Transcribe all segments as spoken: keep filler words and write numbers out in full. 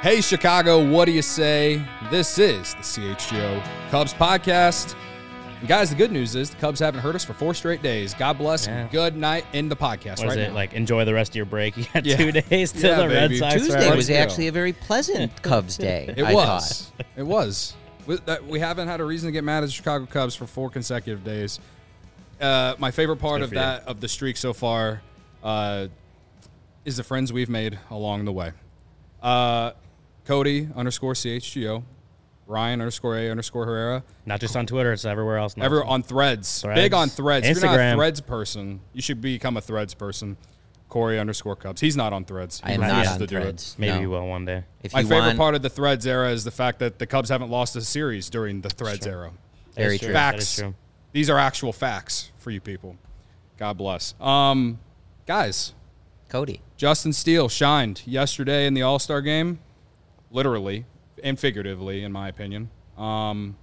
Hey, Chicago, what do you say? This is the C H G O Cubs podcast. And guys, the good news is the Cubs haven't heard us for four straight days. God bless yeah. and good night in the podcast what right is it, now. Like, enjoy the rest of your break? You got yeah. two days till yeah, the Red baby. Sox. Tuesday are was on. actually a very pleasant Cubs day, It I was. thought. It was. We, that, we haven't had a reason to get mad at the Chicago Cubs for four consecutive days. Uh, my favorite part Good of for that, of the streak so far, uh, is the friends we've made along the way. Uh, Cody underscore C H G O, Ryan underscore A underscore Herrera. Not just on Twitter, it's everywhere else. now. Ever on Threads. Threads. Big on Threads. If you're not a Instagram. Threads person, you should become a Threads person. Corey underscore Cubs. He's not on Threads. He I am not refuses on to do it. Threads. Maybe no. you will one day. If My you favorite want, part of the Threads era is the fact that the Cubs haven't lost a series during the Threads true. era. That Very is true. That Facts. is true. These are actual facts for you people. God bless. Um, guys, Cody. Justin Steele shined yesterday in the All-Star game, literally and figuratively, in my opinion. Um,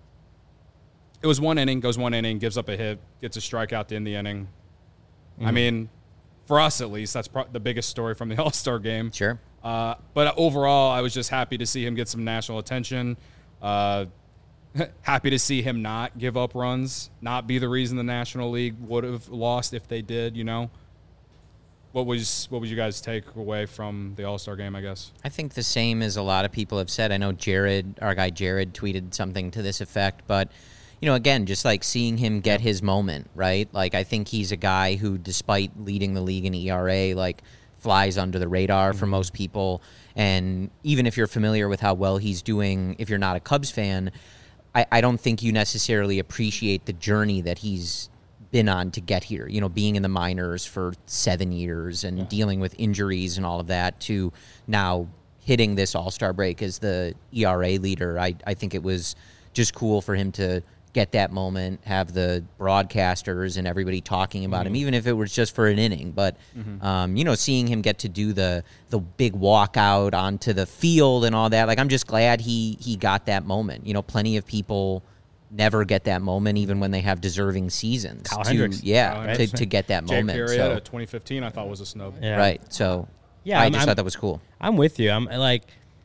it was one inning, goes one inning, gives up a hit, gets a strikeout to end the inning. Mm-hmm. I mean, for us at least, that's pro- the biggest story from the All-Star game. Sure. Uh, but overall, I was just happy to see him get some national attention. Uh, happy to see him not give up runs, not be the reason the National League would have lost if they did, you know. What was what would you guys take away from the All-Star game, I guess? I think the same as a lot of people have said. I know Jared, our guy Jared, tweeted something to this effect, but you know, again, just like seeing him get his moment, right? Like, I think he's a guy who, despite leading the league in E R A, like, flies under the radar for most people. And even if you're familiar with how well he's doing, if you're not a Cubs fan, I, I don't think you necessarily appreciate the journey that he's been on to get here. You know, being in the minors for seven years and Yeah. dealing with injuries and all of that, to now hitting this All-Star break as the E R A leader. I, I think it was just cool for him to get that moment, have the broadcasters and everybody talking about Mm-hmm. him, even if it was just for an inning. But, Mm-hmm. um, you know, seeing him get to do the the big walkout onto the field and all that, like, I'm just glad he he got that moment. You know, plenty of people never get that moment, even when they have deserving seasons. Kyle to, Hendricks. Yeah, Kyle to, Hendricks. to get that Jake moment. Arrieta, So, twenty fifteen, I thought was a snub. Yeah. right. So, Yeah, I I'm- just I'm- thought that was cool. I'm with you. I'm like,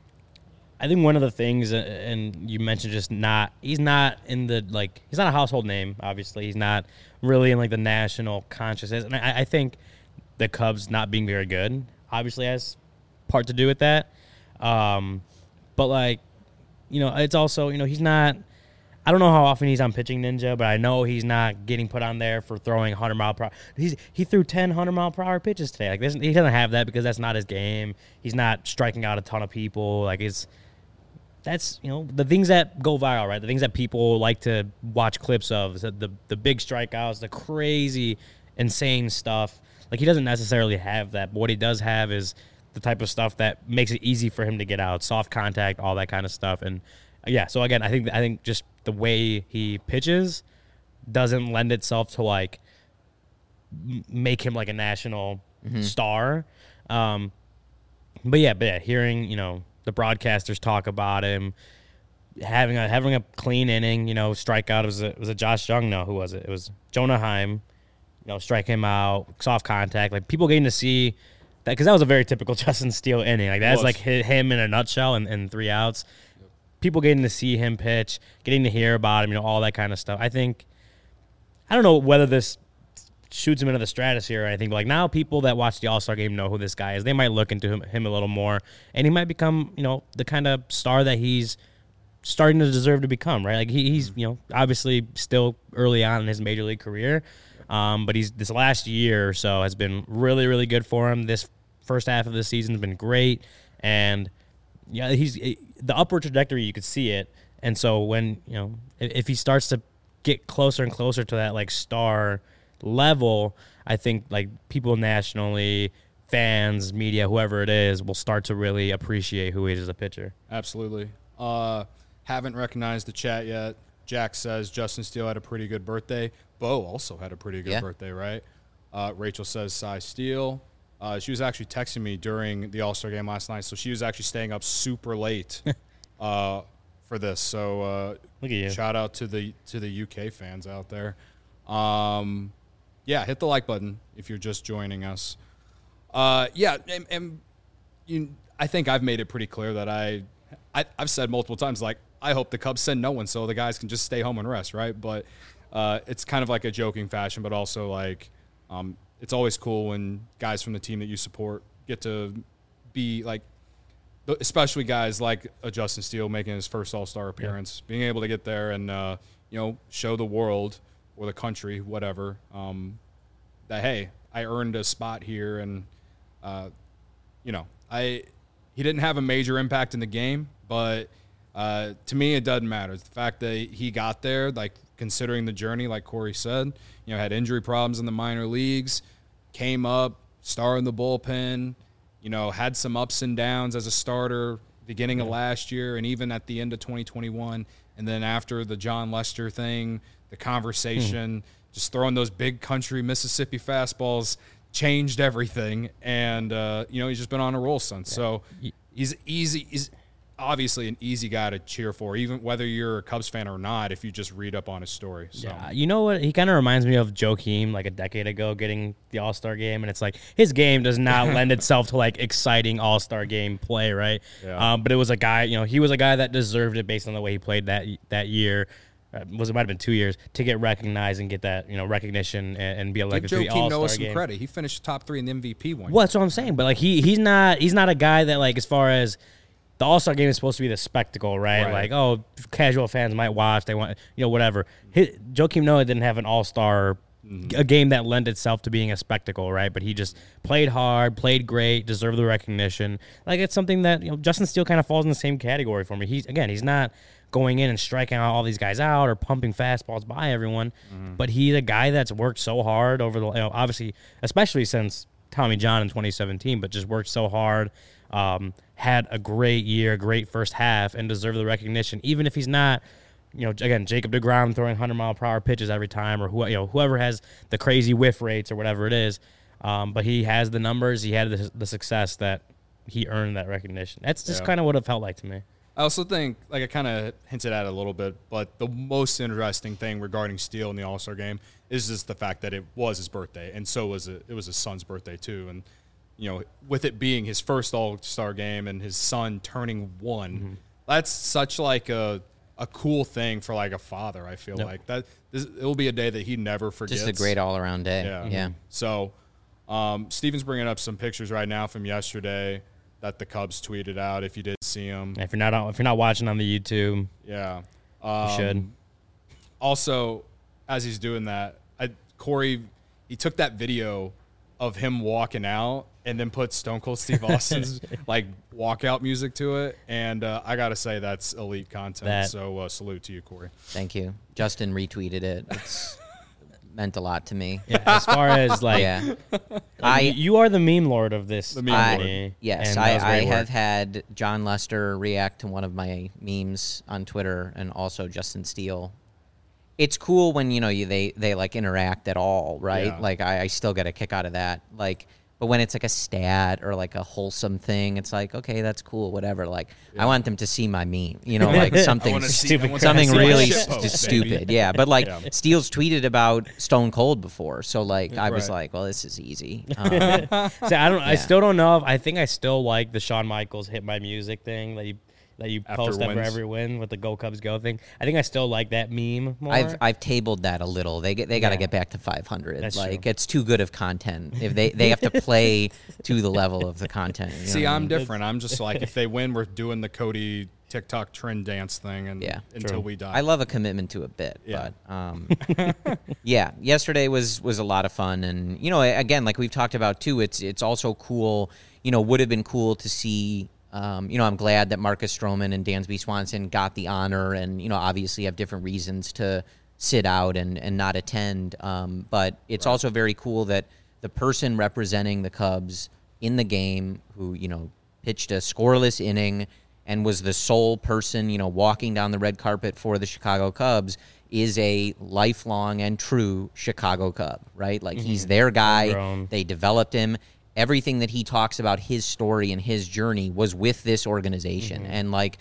I think one of the things, uh, and you mentioned just not, he's not in the, like, he's not a household name, obviously. He's not really in, like, the national consciousness. And I, I think the Cubs not being very good obviously has part to do with that. Um, but, like, you know, it's also, you know, he's not, I don't know how often he's on Pitching Ninja, but I know he's not getting put on there for throwing one hundred mile per hour. He's, he threw ten one hundred mile per hour pitches today. Like, this, he doesn't have that because that's not his game. He's not striking out a ton of people. Like, it's, that's, you know, the things that go viral, right? The things that people like to watch clips of, the the, the big strikeouts, the crazy, insane stuff. Like, he doesn't necessarily have that. But what he does have is the type of stuff that makes it easy for him to get out, soft contact, all that kind of stuff. And yeah, so again, I think I think just the way he pitches doesn't lend itself to, like, m- make him like a national Mm-hmm. star. Um, but yeah, but yeah, hearing, you know, the broadcasters talk about him having a having a clean inning, you know, strikeout. It was a, it was a Josh Jung. No, who was it? It was Jonah Heim. You know, strike him out, soft contact. Like, people getting to see that, because that was a very typical Justin Steele inning. Like, that's was. like hi- him in a nutshell, and, and three outs. People getting to see him pitch, getting to hear about him, you know, all that kind of stuff. I think, I don't know whether this shoots him into the stratosphere or anything, but, like, now people that watch the All-Star game know who this guy is. They might look into him, him a little more, and he might become, you know, the kind of star that he's starting to deserve to become, right? Like, he, he's, you know, obviously still early on in his major league career, um, but he's this last year or so has been really, really good for him. This first half of the season has been great, and yeah, he's the upward trajectory. You could see it, and so when, you know, if, if he starts to get closer and closer to that, like, star level, I think, like, people nationally, fans, media, whoever it is, will start to really appreciate who he is as a pitcher. Absolutely. Uh, haven't recognized the chat yet. Jack says Justin Steele had a pretty good birthday. Bo also had a pretty good Yeah. birthday, right? Uh, Rachel says Cy Steele. Uh, she was actually texting me during the All-Star game last night, so she was actually staying up super late uh, for this. So uh, Look at you. shout out to the to the U K fans out there. Um, yeah, hit the like button if you're just joining us. Uh, yeah, and, and you, I think I've made it pretty clear that I, I I've said multiple times, like, I hope the Cubs send no one so the guys can just stay home and rest, right? But uh, it's kind of like a joking fashion, but also like um, it's always cool when guys from the team that you support get to be like, especially guys like a Justin Steele making his first All-Star appearance, yeah. being able to get there and, uh, you know, show the world or the country, whatever, um, that, hey, I earned a spot here. And, uh, you know, I he didn't have a major impact in the game, but uh, to me it doesn't matter. It's the fact that he got there, like considering the journey, like Corey said, you know, had injury problems in the minor leagues, came up, started in the bullpen, you know, had some ups and downs as a starter beginning yeah. of last year and even at the end of twenty twenty-one. And then after the John Lester thing, the conversation, hmm. just throwing those big country Mississippi fastballs changed everything. And, uh, you know, he's just been on a roll since. Yeah. So he's easy. He's obviously an easy guy to cheer for, even whether you're a Cubs fan or not, if you just read up on his story. So. Yeah, you know what? He kind of reminds me of Joakim like a decade ago getting the All-Star game, and it's like his game does not lend itself to like exciting All-Star game play, right? Yeah. Um, but it was a guy, you know, he was a guy that deserved it based on the way he played that that year. Uh, was it might have been two years to get recognized and get that, you know, recognition and, and be able to give to the All-Star Noah some game. credit. He finished top three in the M V P one. Well, that's what I'm saying. But like he he's not he's not a guy that like as far as the All-Star game is supposed to be the spectacle, right? right? Like, oh, casual fans might watch. They want, you know, whatever. His, Joakim Noah didn't have an All-Star, mm-hmm. a game that lent itself to being a spectacle, right? But he just played hard, played great, deserved the recognition. Like, it's something that, you know, Justin Steele kind of falls in the same category for me. He's, again, he's not going in and striking all these guys out or pumping fastballs by everyone, mm-hmm. but he's a guy that's worked so hard over the, you know, obviously, especially since Tommy John in twenty seventeen, but just worked so hard. Um, had a great year, great first half, and deserved the recognition. Even if he's not, you know, again, Jacob deGrom throwing one hundred mile per hour pitches every time, or who, you know, whoever has the crazy whiff rates or whatever it is. Um, but he has the numbers. He had the, the success that he earned that recognition. That's just yeah. kind of what it felt like to me. I also think, like I kind of hinted at it a little bit, but the most interesting thing regarding Steele in the All-Star game is just the fact that it was his birthday, and so was it. It was his son's birthday too, and you know, with it being his first All-Star game and his son turning one, mm-hmm. that's such like a a cool thing for like a father. I feel yep. like that this, it'll be a day that he never forgets. Just a great all-around day. Yeah. Mm-hmm. yeah. So, um, Steven's bringing up some pictures right now from yesterday that the Cubs tweeted out. If you did see them, if you're not if you're not watching on the YouTube, yeah, um, you should. Also, as he's doing that, I, Corey, he took that video of him walking out and then put Stone Cold Steve Austin's like walkout music to it, and uh, I gotta say that's elite content. That, so uh, salute to you, Corey. Thank you. Justin retweeted it. It's meant a lot to me. Yeah, as far as like, yeah. I you are the meme lord of this. The meme I, lord. Yes, I, I have had John Lester react to one of my memes on Twitter, and also Justin Steele. It's cool when, you know, you, they, they like interact at all, right? Yeah. Like I, I still get a kick out of that. Like, but when it's like a stat or like a wholesome thing, it's like, okay, that's cool, whatever. Like, yeah. I want them to see my meme, you know, like something stupid, something really st- stupid. Yeah, but like yeah. Steele's tweeted about Stone Cold before, so like I was right. like, well, this is easy. Um, See, I don't, yeah. I still don't know if I think I still like the Shawn Michaels "Hit My Music" thing that you. That you after post after every win with the "Go Cubs Go" thing. I think I still like that meme more. I've I've tabled that a little. They get they got to yeah. get back to five hundred. That's like true. It's too good of content. If they, they have to play to the level of the content. You know See, I'm I mean? different. I'm just like, if they win, we're doing the Cody TikTok trend dance thing, and yeah, until true. we die. I love a commitment to a bit, yeah. but um, yeah, yesterday was was a lot of fun, and you know, again, like we've talked about too, it's it's also cool. You know, would have been cool to see. Um, you know, I'm glad that Marcus Stroman and Dansby Swanson got the honor, and you know, obviously have different reasons to sit out and, and not attend. Um, but it's right. also very cool that the person representing the Cubs in the game, who you know pitched a scoreless inning and was the sole person, you know, walking down the red carpet for the Chicago Cubs, is a lifelong and true Chicago Cub, right? Like mm-hmm. he's their guy. They developed him. Everything that he talks about his story and his journey was with this organization. Mm-hmm. And like,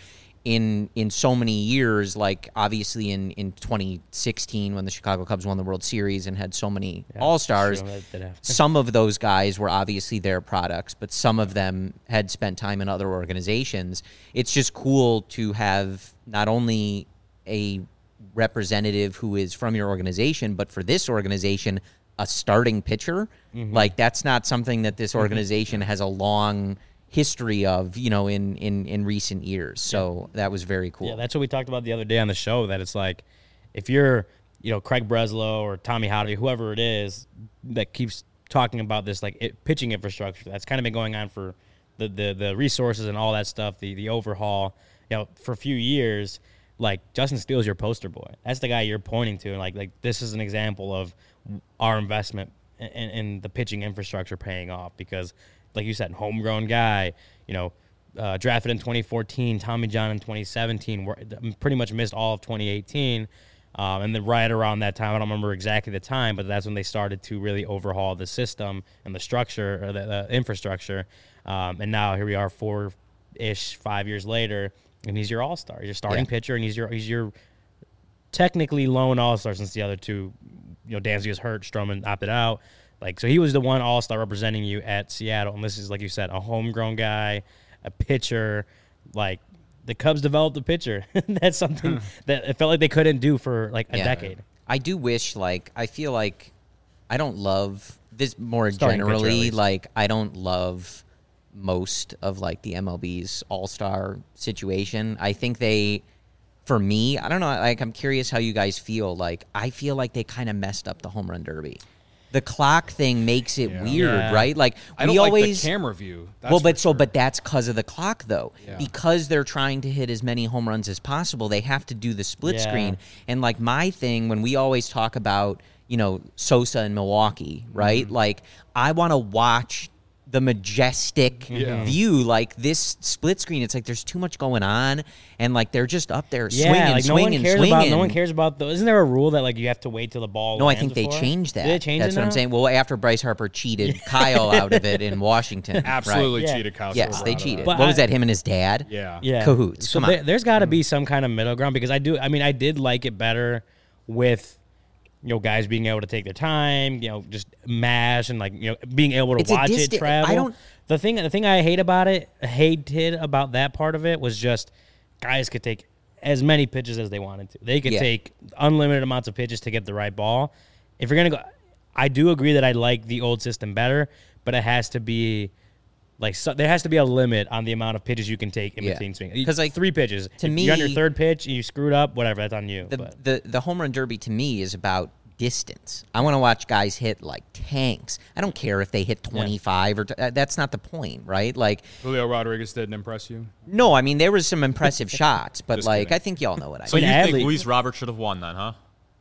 in in so many years, like obviously in, in twenty sixteen when the Chicago Cubs won the World Series and had so many Yeah, All-Stars, true, that did happen. some of those guys were obviously their products, but some of them had spent time in other organizations. It's just cool to have not only a representative who is from your organization, but for this organization, a starting pitcher. Mm-hmm. Like, that's not something that this organization has a long history of, you know, in, in, in recent years. So that was very cool. Yeah, that's what we talked about the other day on the show, that it's like, if you're, you know, Craig Breslow or Tommy Hotovy, whoever it is that keeps talking about this, like, it, pitching infrastructure, that's kind of been going on for the, the, the resources and all that stuff, the, the overhaul, you know, for a few years. Like, Justin Steele's your poster boy. That's the guy you're pointing to. And, like, like this is an example of our investment in, in the pitching infrastructure paying off because, like you said, homegrown guy, you know, uh, drafted in twenty fourteen, Tommy John in twenty seventeen, pretty much missed all of twenty eighteen. Um, and then right around that time, I don't remember exactly the time, but that's when they started to really overhaul the system and the structure, or the, the infrastructure. Um, and now here we are four-ish, five years later, and he's your all-star. He's your starting Yeah. pitcher, and he's your he's your technically lone all-star since the other two, you know, Dansby was hurt, Stroman opted out. Like, so he was the one all-star representing you at Seattle. And this is, like you said, a homegrown guy, a pitcher. Like, the Cubs developed a pitcher. That's something that it felt like they couldn't do for, like, a Yeah. decade. I do wish, like, I feel like I don't love this more Starting pitcher, at generally. least. Like, I don't love most of, like, the M L B's all-star situation. I think they, for me, I don't know, like, I'm curious how you guys feel. Like, I feel like they kind of messed up the home run derby. The clock thing makes it Yeah. weird, Yeah. right? Like, I don't we like always the camera view. That's well, for but so, sure. but that's because of the clock, though. Yeah. Because they're trying to hit as many home runs as possible, they have to do the split Yeah. screen. And like my thing, when we always talk about, you know, Sosa in Milwaukee, right? Mm-hmm. Like, I want to watch the majestic Yeah. view, like this split screen. It's like there's too much going on, and like they're just up there Yeah, swinging, like no swinging, one cares swinging. about. No one cares about. The, isn't there a rule that like you have to wait till the ball? No, I lands think they before? changed that. Did they change That's it what I'm now? saying. Well, after Bryce Harper cheated Kyle out of it in Washington, right? Absolutely Yeah. cheated Kyle. Yes, they Silverado. cheated. But what was I- that? Him and his dad? Yeah. Yeah, Cahoots. So Come there, on. there's got to be some kind of middle ground because I do. I mean, I did like it better with, you know, guys being able to take their time, you know, just mash and like, you know, being able to It's a watch it distant- travel. I don't- The thing, the thing I hate about it, hated about that part of it was just guys could take as many pitches as they wanted to. They could Yeah. take unlimited amounts of pitches to get the right ball. If you're gonna go, I do agree that I like the old system better, but it has to be. Like so, there has to be a limit on the amount of pitches you can take in Yeah. between swings. 'Cause, like, three pitches. to if you're on your me- third pitch and you screwed up, whatever, that's on you. The, but. the the home run derby to me is about distance. I want to watch guys hit like tanks. I don't care if they hit twenty-five or t- uh, that's not the point, right? Like, Julio Rodriguez didn't impress you. no, I mean there was some impressive shots, but Just like kidding. I think y'all know what I So mean. you Adley- think Luis Robert should have won then, huh?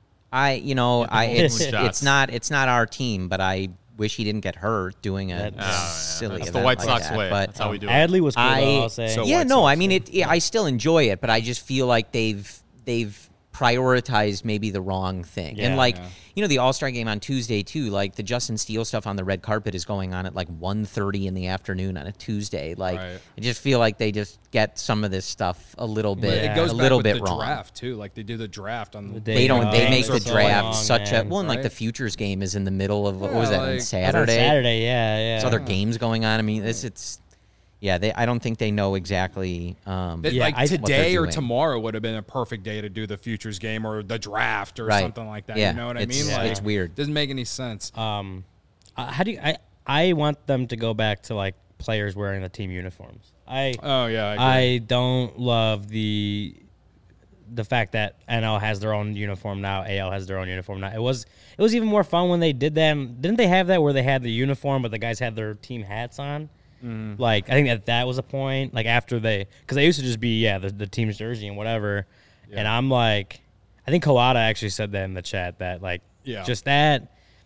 I you know I Multiple it's shots. it's not it's not our team, but I wish he didn't get hurt doing a That- Ah, yeah, silly That's the event White like Sox that. way. But That's how we do it. Adley was cool, I though, I'll say. So yeah, White no, Sox, I mean yeah. it, yeah, I still enjoy it, but I just feel like they've they've prioritized maybe the wrong thing. Yeah, and like yeah. you know, the All Star game on Tuesday too. Like the Justin Steele stuff on the red carpet is going on at like one thirty in the afternoon on a Tuesday. Like Right. I just feel like they just get some of this stuff a little But bit Yeah. it goes a back little with bit the wrong. draft too. Like they do the draft on The the day They don't. Oh, They games make are the so draft long, such a man. well. And like the Right? futures game is in the middle of what Yeah, was that like- on That's That's on Saturday? Saturday, yeah, yeah. There's other games going on. I mean, this it's yeah. They I don't think they know exactly. Um, That, Yeah, like I- what they're today or doing. tomorrow would have been a perfect day to do the futures game or the draft or Right. something like that. Yeah, You know what I it's- mean? Like it's weird. Doesn't make any sense. Um, uh, how do you? I I want them to go back to like players wearing the team uniforms. I oh yeah, I, agree. I don't love the the fact that N L has their own uniform now, A L has their own uniform now. It was it was even more fun when they did that. Didn't they have that where they had the uniform but the guys had their team hats on? Mm-hmm. Like I think that that was a point. Like after they, because they used to just be yeah the, the team's jersey and whatever. Yeah. And I'm like, I think Kawada actually said that in the chat that like Yeah. just that.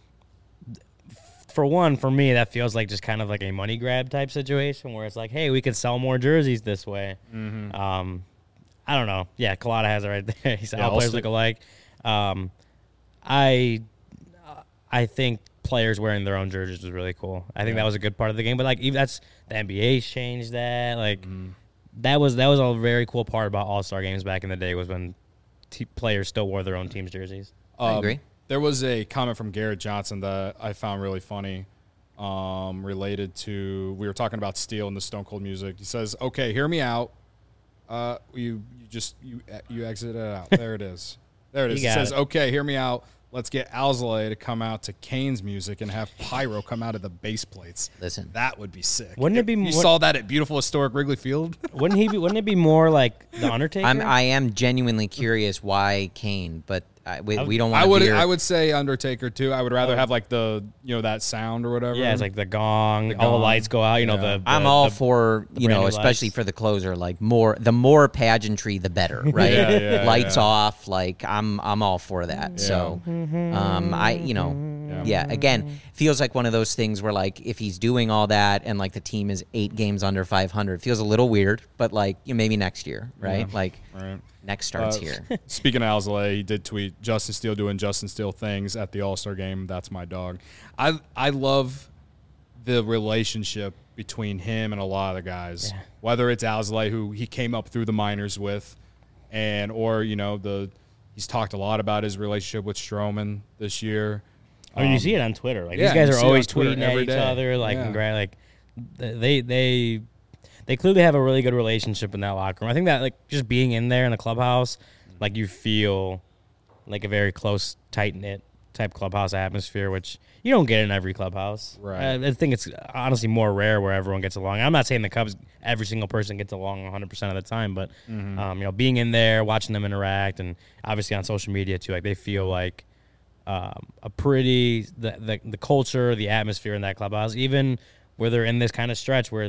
For one, for me, that feels like just kind of like a money grab type situation where it's like, hey, we could sell more jerseys this way. Mm-hmm. Um, I don't know. Yeah, Collada has it right there. He said Yeah, all I'll players stick- look alike. Um, I, I think players wearing their own jerseys was really cool. I think Yeah. that was a good part of the game. But like, even that's the N B A's changed that. Like, Mm-hmm. that was that was a very cool part about All-Star games back in the day was when t- players still wore their own team's jerseys. I Um, agree. There was a comment from Garrett Johnson that I found really funny, um, related to we were talking about Steel and the Stone Cold music. He says, "Okay, hear me out. Uh, you you just you you exit it out. There it is. There it is. You He got says, it. okay, hear me out. Let's get Alzolay to come out to Kane's music and have pyro come out of the base plates. Listen. That would be sick. Wouldn't it If be you more- saw that at beautiful historic Wrigley Field? Wouldn't he be? Wouldn't it be more like the Undertaker? I'm, I am genuinely curious why Kane, but I, we, we don't want I to would veer. I would say Undertaker too. I would rather Oh. have like the you know that sound or whatever. yeah, it's like the gong, The all the gong. lights go out. You know Yeah. the. I'm the- all the- for, you brand know, new especially lights. for the closer, like more, the more pageantry, the better, right? Yeah, yeah, Lights yeah. off, like I'm, I'm all for that. So, um, I, you know, Yeah. yeah. Again, feels like one of those things where like if he's doing all that and like the team is eight games under five hundred, feels a little weird. But like you know, maybe next year, right? Yeah. Like Right. next starts Uh, here. Speaking of Alzolay, he did tweet Justin Steele doing Justin Steele things at the All-Star game. That's my dog. I I love the relationship between him and a lot of the guys. Yeah. Whether it's Alzolay, who he came up through the minors with, and or you know the he's talked a lot about his relationship with Stroman this year. I mean, you Um, see it on Twitter. Like yeah, these guys you are see it always on Twitter tweeting at every each day. other. Like, Yeah. congrat- like they they they clearly have a really good relationship in that locker room. I think that like just being in there in the clubhouse, like you feel like a very close, tight knit type clubhouse atmosphere, which you don't get in every clubhouse. Right. I, I think it's honestly more rare where everyone gets along. I'm not saying the Cubs, every single person gets along one hundred percent of the time, but Mm-hmm. um, you know, being in there, watching them interact, and obviously on social media too, like they feel like um, a pretty the, the the culture, the atmosphere in that clubhouse, even where they're in this kind of stretch where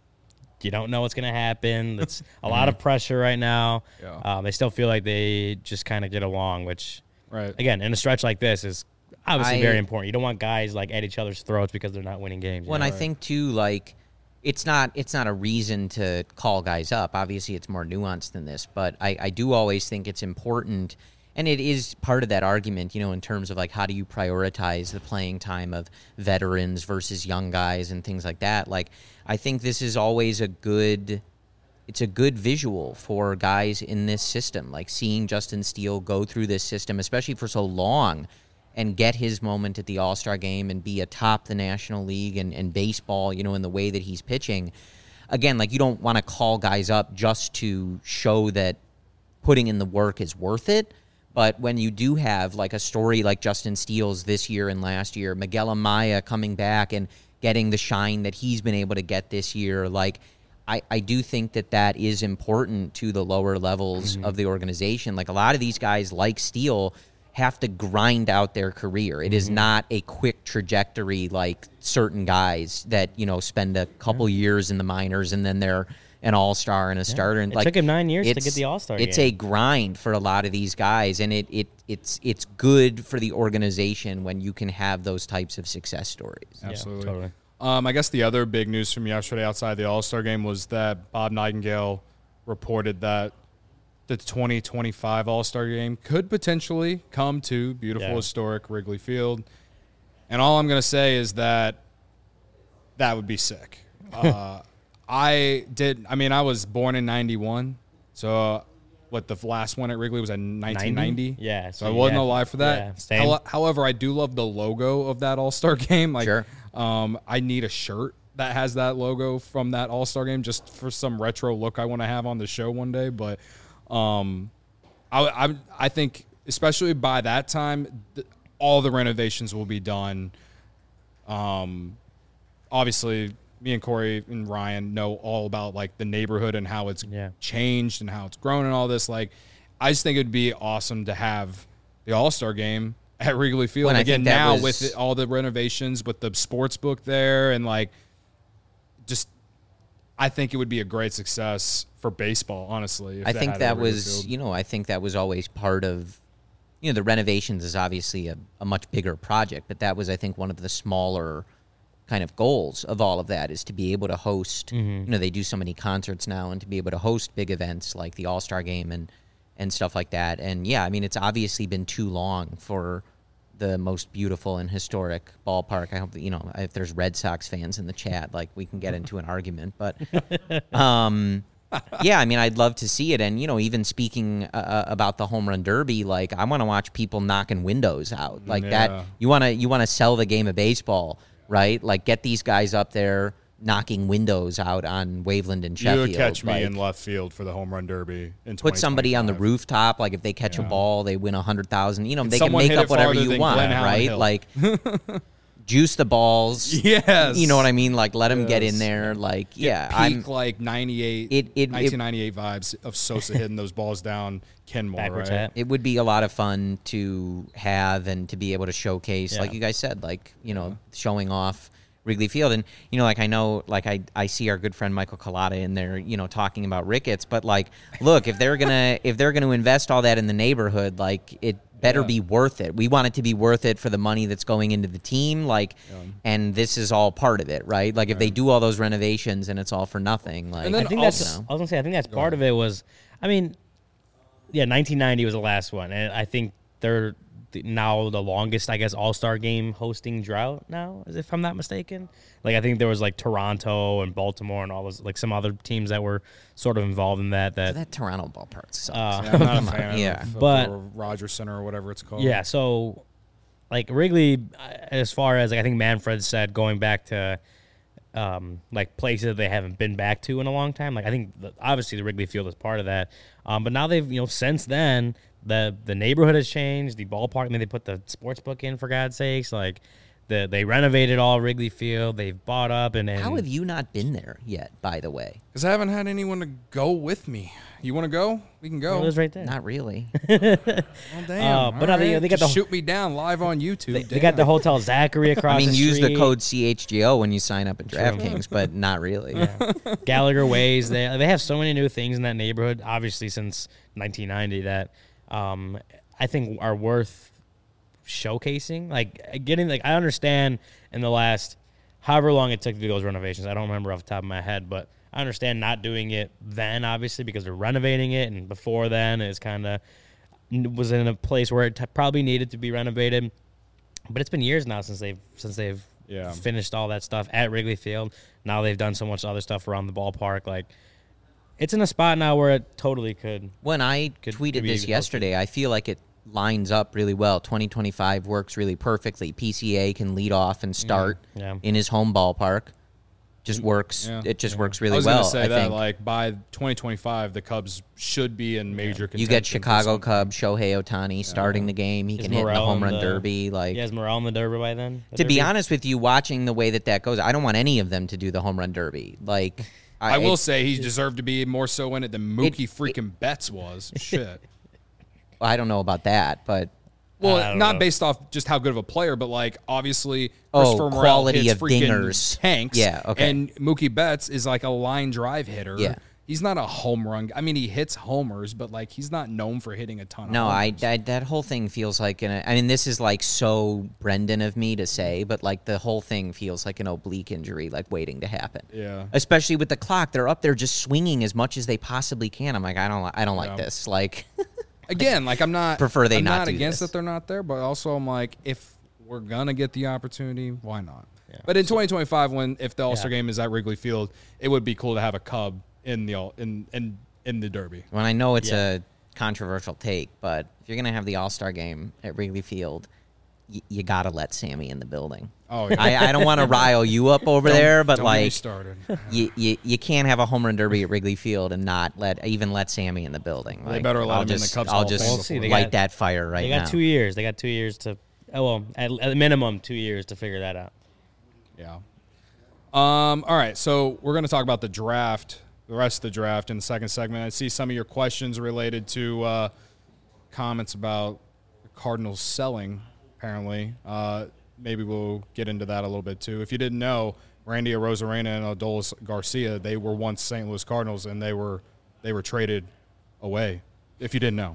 you don't know what's going to happen. It's a lot of pressure right now. Yeah. Um, they still feel like they just kind of get along, which Right. again, in a stretch like this is obviously I- very important. You don't want guys like at each other's throats because they're not winning games. you Well, and know? I think too, like it's not it's not a reason to call guys up. Obviously, it's more nuanced than this, but I, I do always think it's important, and it is part of that argument, you know, in terms of like how do you prioritize the playing time of veterans versus young guys and things like that. Like, I think this is always a good. It's a good visual for guys in this system, like seeing Justin Steele go through this system, especially for so long, and get his moment at the All-Star game and be atop the National League and, and baseball, you know, in the way that he's pitching. Again, like you don't want to call guys up just to show that putting in the work is worth it. But when you do have like a story like Justin Steele's this year and last year, Miguel Amaya coming back and getting the shine that he's been able to get this year, like I, I do think that that is important to the lower levels of the organization. Like a lot of these guys like Steele have to grind out their career. It is not a quick trajectory like certain guys that, you know, spend a couple years in the minors and then they're an all-star and a starter. And It like took him nine years to it's- get the All-Star It's game. a grind for a lot of these guys, and it, it it's it's good for the organization when you can have those types of success stories. Yeah, Absolutely. totally. Um, I guess the other big news from yesterday outside the All-Star game was that Bob Nightingale reported that the twenty twenty-five All-Star game could potentially come to beautiful, Yeah. historic Wrigley Field. And all I'm going to say is that that would be sick. Uh, I did, I mean, I was born in ninety-one. So, uh, what, the last one at Wrigley was in nineteen ninety? Yeah, So, so I you wasn't have- alive for that. yeah, same. How- However, I do love the logo of that All-Star game. Like, Sure. um, I need a shirt that has that logo from that All-Star game just for some retro look I want to have on the show one day. But um, I, I, I think, especially by that time, th- all the renovations will be done. Um, obviously, me and Corey and Ryan know all about like the neighborhood and how it's Yeah. changed and how it's grown and all this. Like, I just think it'd be awesome to have the All-Star game at Wrigley Field Well, and I again think that now was- with it, all the renovations, with the sports book there, and like, just I think it would be a great success for baseball. Honestly, if I they think had it at that Wrigley was, Field. you know, I think that was always part of, you know, the renovations is obviously a, a much bigger project, but that was, I think, one of the smaller kind of goals of all of that is to be able to host, you know, they do so many concerts now, and to be able to host big events like the All-Star game and, and stuff like that. And yeah, I mean, it's obviously been too long for the most beautiful and historic ballpark. I hope that, you know, if there's Red Sox fans in the chat, like we can get into an argument, but, um, Yeah, I mean, I'd love to see it. And, you know, even speaking uh, about the home run derby, like, I want to watch people knocking windows out. Like Yeah. that, you want to you want to sell the game of baseball, right? Like, get these guys up there knocking windows out on Waveland and You Sheffield. would catch me like, in left field for the home run derby in put somebody on the twenty twenty-five. rooftop. Like, if they catch a Yeah. ball, they win a hundred thousand. You know, And they can someone make hit up it whatever farther you than want, Glenn Allen right? Hill. Like, juice the balls. Yes. You know what I mean? Like, let them get in Yes. there. Like, Get yeah, peak I'm. like ninety-eight, It- it- it- nineteen ninety-eight vibes of Sosa hitting those balls down Kenmore, Backwards right? hat. It would be a lot of fun to have and to be able to showcase, like Yeah. you guys said, like, you know, showing off Wrigley Field. And, you know, like, I know, like, I, I see our good friend Michael Collada in there, you know, talking about Ricketts. But, like, look, if they're going to if they're going to invest all that in the neighborhood, like, it better Yeah. be worth it. We want it to be worth it for the money that's going into the team. Like, and this is all part of it, right? Like, if they do all those renovations and it's all for nothing, like, And then I think also- that's. I was gonna say. I think that's part of it. Was I mean, yeah, nineteen ninety was the last one, and I think they're the- now the longest, I guess, All Star game hosting drought now, if I'm not mistaken. Like I think there was like Toronto and Baltimore and all those like some other teams that were sort of involved in that. That, that Toronto ballpark sucks. uh, Yeah, I'm not a fan Yeah. of, of But- the Rogers Center or whatever it's called. Yeah, so like Wrigley, uh, as far as like I think Manfred said, going back to um, like places that they haven't been back to in a long time. Like I think the, obviously the Wrigley Field is part of that, um, but now they've you know since then the the neighborhood has changed. The ballpark, I mean, they put the sports book in for God's sakes. Like the they renovated all Wrigley Field. They've bought up and, and How have you not been there yet, by the way? Because I haven't had anyone to go with me. You want to go? We can go. It was right there. Not really. Well, damn. Uh, but no, All they- right. they got Just the- shoot me down live on YouTube. They, they got the Damn. Hotel Zachary across. I mean, the use the street. code C H G O when you sign up at DraftKings, but not really. Yeah. Gallagher Ways. They they have so many new things in that neighborhood, obviously since nineteen ninety, that um, I think are worth showcasing. Like getting like I understand in the last however long it took to do those renovations. I don't remember off the top of my head, but I understand not doing it then, obviously, because they're renovating it, and before then it's kind of was in a place where it t- probably needed to be renovated. But it's been years now since they've since they've Yeah. finished all that stuff at Wrigley Field. Now they've done so much other stuff around the ballpark. Like it's in a spot now where it totally could. When I Could- tweeted could be this hosted. yesterday, I feel like it lines up really well. twenty twenty-five works really perfectly. P C A can lead off and start Yeah. in his home ballpark. Just works. Yeah. It just Yeah. works I really was well. gonna say I that think. like by twenty twenty-five, the Cubs should be in major. You contention get for Chicago something. Cubs, Shohei Ohtani starting the game. He Is can hit in the Morel home in run the- derby. Like He has Morel in the Derby by then. The to be Derby? honest with you, watching the way that that goes, I don't want any of them to do the home run derby. Like I will it- say he deserved to be more so in it than Mookie freaking Betts was. Shit. I don't know about that, but Well, I don't not know. based off just how good of a player, but like obviously Oh, Christopher Morel quality hits of freaking dingers. tanks. Yeah, okay. And Mookie Betts is like a line drive hitter. Yeah. He's not a home run. I mean, he hits homers, but like he's not known for hitting a ton. no, of I, homers. I that whole thing feels like an. I mean, this is like so Brendan of me to say, but like the whole thing feels like an oblique injury, like waiting to happen. Yeah. Especially with the clock, they're up there just swinging as much as they possibly can. I'm like, I don't, li- I don't like Yeah. this. Like, Again, like I'm not Prefer they I'm not not do against this. that they're not there, but also I'm like, if we're gonna get the opportunity, why not? But in twenty twenty-five, when if the All Star Yeah. game is at Wrigley Field, it would be cool to have a Cub in the all in in in the Derby. when I know it's Yeah. a controversial take, but if you're gonna have the All Star game at Wrigley Field, y- you gotta let Sammy in the building. Oh, yeah. I, I don't want to rile you up over Don't- there, but don't get me like, started. you, you you can't have a home run derby at Wrigley Field and not let even let Sammy in the building. They Like, better let I'll him in the just, Cubs I'll Hall of just Fame We'll see. They light got- that fire right They got now. two years. They got two years to. Oh well, at, at minimum two years to figure that out. Yeah. Um. All right. So we're going to talk about the draft, the rest of the draft in the second segment. I see some of your questions related to uh, comments about the Cardinals selling. Apparently, uh, maybe we'll get into that a little bit too. If you didn't know, Randy Arozarena and Adolis Garcia, they were once Saint Louis Cardinals, and they were they were traded away. If you didn't know,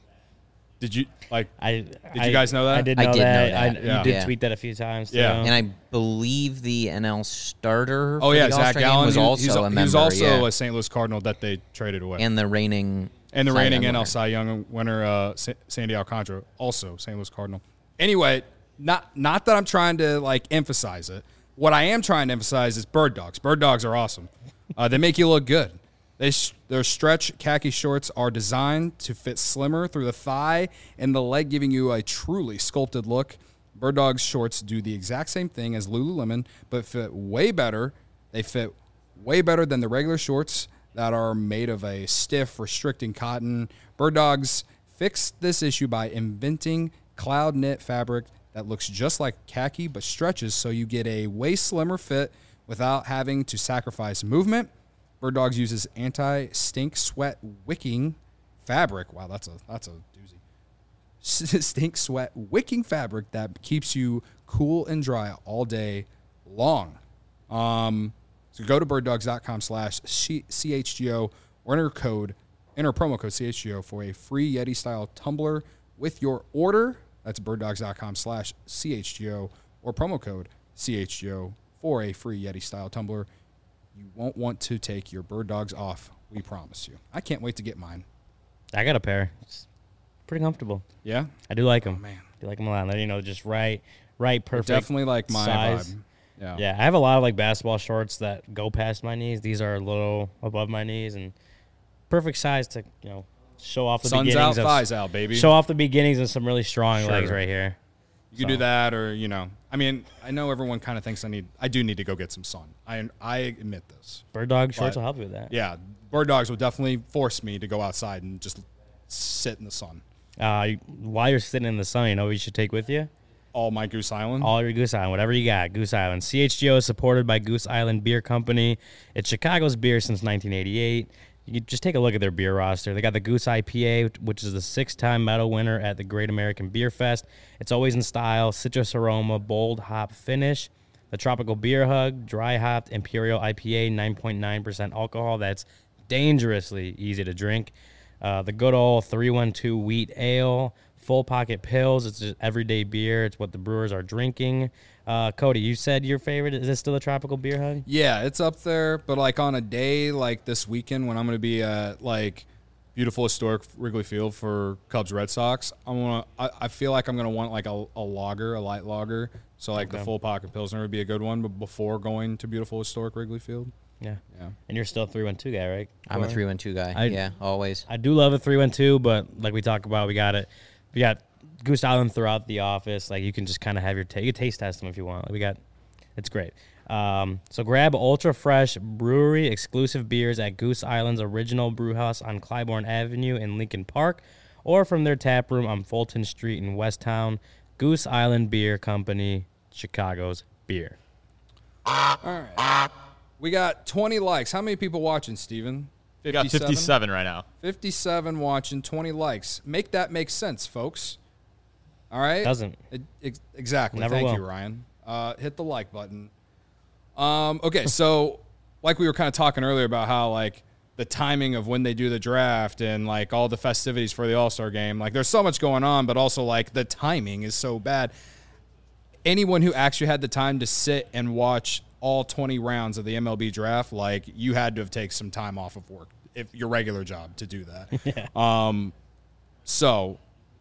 did you like? I Did I- you guys know that? I did I know did know that. that. I, Yeah. You did Yeah. tweet that a few times. Too. Yeah. And I believe the N L starter. Oh for yeah, the Zach All-Star game Gallen was he- also he's, a member. He was also yeah. a Saint Louis Cardinal that they traded away. and the reigning And the Cy reigning Young N L winner. Cy Young winner, uh, Sa- Sandy Alcantara, also Saint Louis Cardinal. Anyway, not not that I'm trying to like emphasize it. What I am trying to emphasize is bird dogs. Bird dogs are awesome. Uh, they make you look good. They sh- their stretch khaki shorts are designed to fit slimmer through the thigh and the leg, giving you a truly sculpted look. Bird Dog's shorts do the exact same thing as Lululemon, but fit way better. They fit way better than the regular shorts that are made of a stiff, restricting cotton. Bird Dogs fixed this issue by inventing cloud knit fabric that looks just like khaki but stretches so you get a way slimmer fit without having to sacrifice movement. Bird Dogs uses anti-stink sweat wicking fabric. Wow, that's a that's a doozy. Stink sweat wicking fabric that keeps you cool and dry all day long. Um, so go to birddogs.com slash CHGO or enter code, enter promo code C H G O for a free Yeti style tumbler with your order. That's birddogs.com slash CHGO or promo code C H G O for a free Yeti style tumbler. You won't want to take your Bird Dogs off. We promise you. I can't wait to get mine. I got a pair. It's pretty comfortable. Yeah? I do like them. Oh, man. I do like them a lot. They're, you know, just right, right, perfect. They're definitely like my size. vibe. Yeah. Yeah, I have a lot of like basketball shorts that go past my knees. These are a little above my knees and perfect size to, you know, show off the Sun's beginnings out, of thighs out, baby. show off the beginnings of some really strong Sure. legs right here. You can So. do that, or, you know, I mean, I know everyone kind of thinks I need, I do need to go get some sun. I I admit this. Bird Dog shorts But, will help you with that. Yeah, Bird Dogs will definitely force me to go outside and just sit in the sun. Uh, you- while you're sitting in the sun, you know what you should take with you? All my Goose Island. All your Goose Island, whatever you got, Goose Island. C H G O is supported by Goose Island Beer Company. It's Chicago's beer since nineteen eighty-eight. You can just take a look at their beer roster. They got the Goose I P A, which is the six-time medal winner at the Great American Beer Fest. It's always in style, citrus aroma, bold hop finish. The Tropical Beer Hug, dry hopped Imperial I P A, nine point nine percent alcohol. That's dangerously easy to drink. Uh, the good old three one two Wheat Ale, Full Pocket Pills. It's just everyday beer. It's what the brewers are drinking. Uh, Cody, you said your favorite. Is this still a Tropical Beer Hug? Yeah, it's up there, but like on a day like this weekend when I'm going to be at like beautiful historic Wrigley Field for Cubs Red Sox, I'm gonna. I, I feel like I'm gonna want like a, a lager, a light lager. So like Okay. the Full Pocket Pilsner would be a good one, but before going to beautiful historic Wrigley Field. Yeah. Yeah. And you're still a three one two guy, right? I'm a Corey? three one two guy. I- yeah, always. I do love a three one two, but like we talked about, we got it. We got Goose Island throughout the office. Like you can just kind of have your ta- you can taste test them if you want. Like, we got, it's great. Um, so grab ultra fresh brewery exclusive beers at Goose Island's original brew house on Clybourne Avenue in Lincoln Park, or from their tap room on Fulton Street in Westtown. Goose Island Beer Company, Chicago's beer. All right. We got twenty likes. How many people watching, Steven? We got fifty-seven right now. fifty-seven watching, twenty likes. Make that make sense, folks. All right? Doesn't. It, ex- exactly. Never Thank will. you, Ryan. Uh, hit the like button. Um, okay, so like we were kind of talking earlier about how like the timing of when they do the draft and like all the festivities for the All-Star game, like there's so much going on, but also like the timing is so bad. Anyone who actually had the time to sit and watch all twenty rounds of the M L B draft, like you had to have taken some time off of work, if your regular job, to do that. Yeah. Um, so,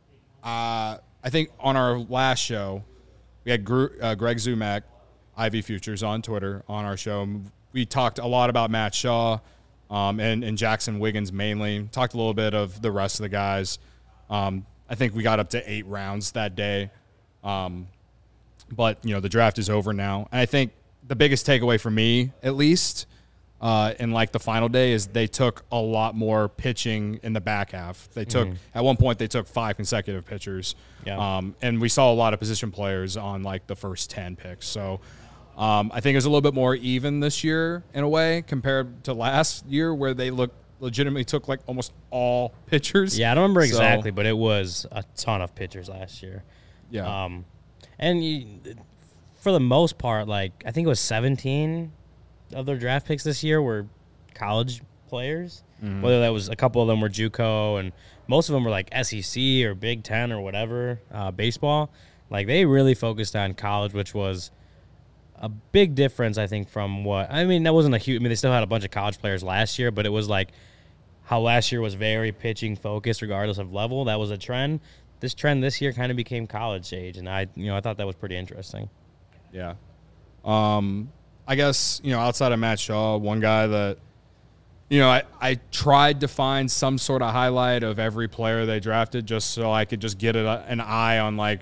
uh, I think on our last show, we had Gru- uh, Greg Zumak, Ivy Futures, on Twitter on our show. We talked a lot about Matt Shaw um, and, and Jackson Wiggins mainly. Talked a little bit of the rest of the guys. Um, I think we got up to eight rounds that day. Um, but, you know, the draft is over now. And I think the biggest takeaway for me, at least, uh, in like the final day, is they took a lot more pitching in the back half. They took at one point they took five consecutive pitchers, Yeah. um, and we saw a lot of position players on like the first ten picks. So um, I think it was a little bit more even this year in a way compared to last year, where they looked legitimately took like almost all pitchers. Yeah, I don't remember So, exactly, but it was a ton of pitchers last year. Yeah. Um, and you, for the most part, like I think it was seventeen of their draft picks this year were college players. Mm-hmm. Whether that was a couple of them were JUCO, and most of them were like S E C or Big Ten or whatever uh, baseball. Like they really focused on college, which was a big difference, I think, from what I mean. That wasn't a huge. I mean, they still had a bunch of college players last year, but it was like how last year was very pitching focused, regardless of level. That was a trend. This trend this year kind of became college age, and I, you know, I thought that was pretty interesting. Yeah. Um, I guess, you know, outside of Matt Shaw, one guy that, you know, I, I tried to find some sort of highlight of every player they drafted just so I could just get a, an eye on, like,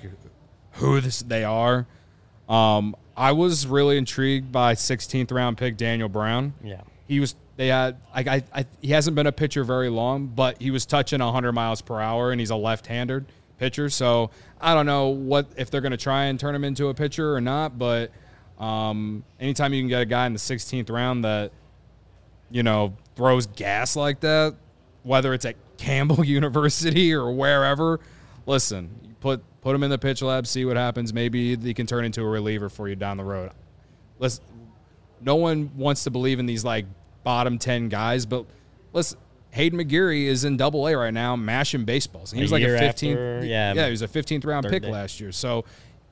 who this, they are. Um, I was really intrigued by sixteenth round pick Daniel Brown. Yeah. He was they had I, I, I he hasn't been a pitcher very long, but he was touching one hundred miles per hour, and he's a left-handed pitcher. So I don't know what if they're going to try and turn him into a pitcher or not, but um, anytime you can get a guy in the sixteenth round that, you know, throws gas like that, whether it's at Campbell University or wherever, listen, you put put him in the pitch lab, see what happens. Maybe he can turn into a reliever for you down the road. Listen, no one wants to believe in these, like, bottom ten guys, but listen, Hayden McGeary is in Double A right now, mashing baseballs. And he was A like year a fifteenth, after, yeah, yeah, he was a fifteenth round pick day. last year. So,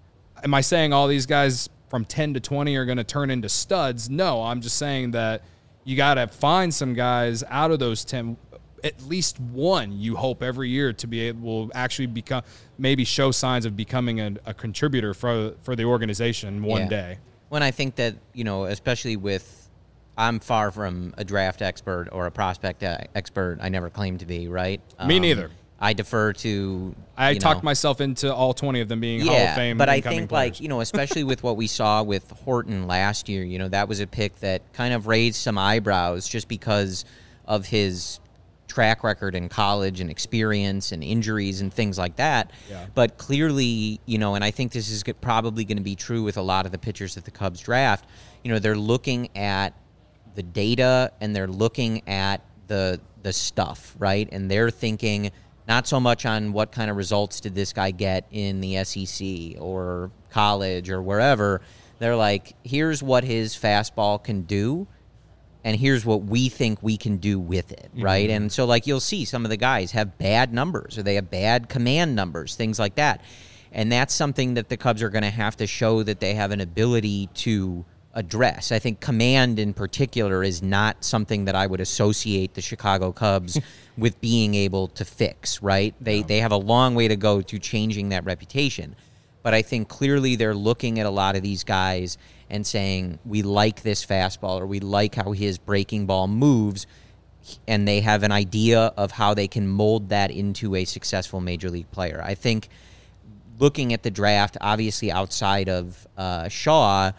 am I saying all these guys from ten to twenty are going to turn into studs? No, I'm just saying that you got to find some guys out of those ten. At least one, you hope every year to be able will actually become maybe show signs of becoming a, a contributor for for the organization one Yeah. day. When I think that, you know, especially with, I'm far from a draft expert or a prospect uh, expert. I never claimed to be, right? Me Um, neither. I defer to. I you talked know, myself into all twenty of them being yeah, Hall of Fame. but I incoming think, players. like, you know, especially with what we saw with Horton last year, you know, that was a pick that kind of raised some eyebrows just because of his track record in college and experience and injuries and things like that. Yeah. But clearly, you know, and I think this is g- probably going to be true with a lot of the pitchers that the Cubs draft, you know, they're looking at the data and they're looking at the the stuff, right? And they're thinking not so much on what kind of results did this guy get in the S E C or college or wherever. They're like, here's what his fastball can do, and here's what we think we can do with it, right? Mm-hmm. And so, like, you'll see some of the guys have bad numbers or they have bad command numbers, things like that. And that's something that the Cubs are going to have to show that they have an ability to address. I think command in particular is not something that I would associate the Chicago Cubs with being able to fix, right? They, they have a long way to go to changing that reputation. But I think clearly they're looking at a lot of these guys and saying, we like this fastball or we like how his breaking ball moves, and they have an idea of how they can mold that into a successful major league player. I think looking at the draft, obviously outside of uh, Shaw,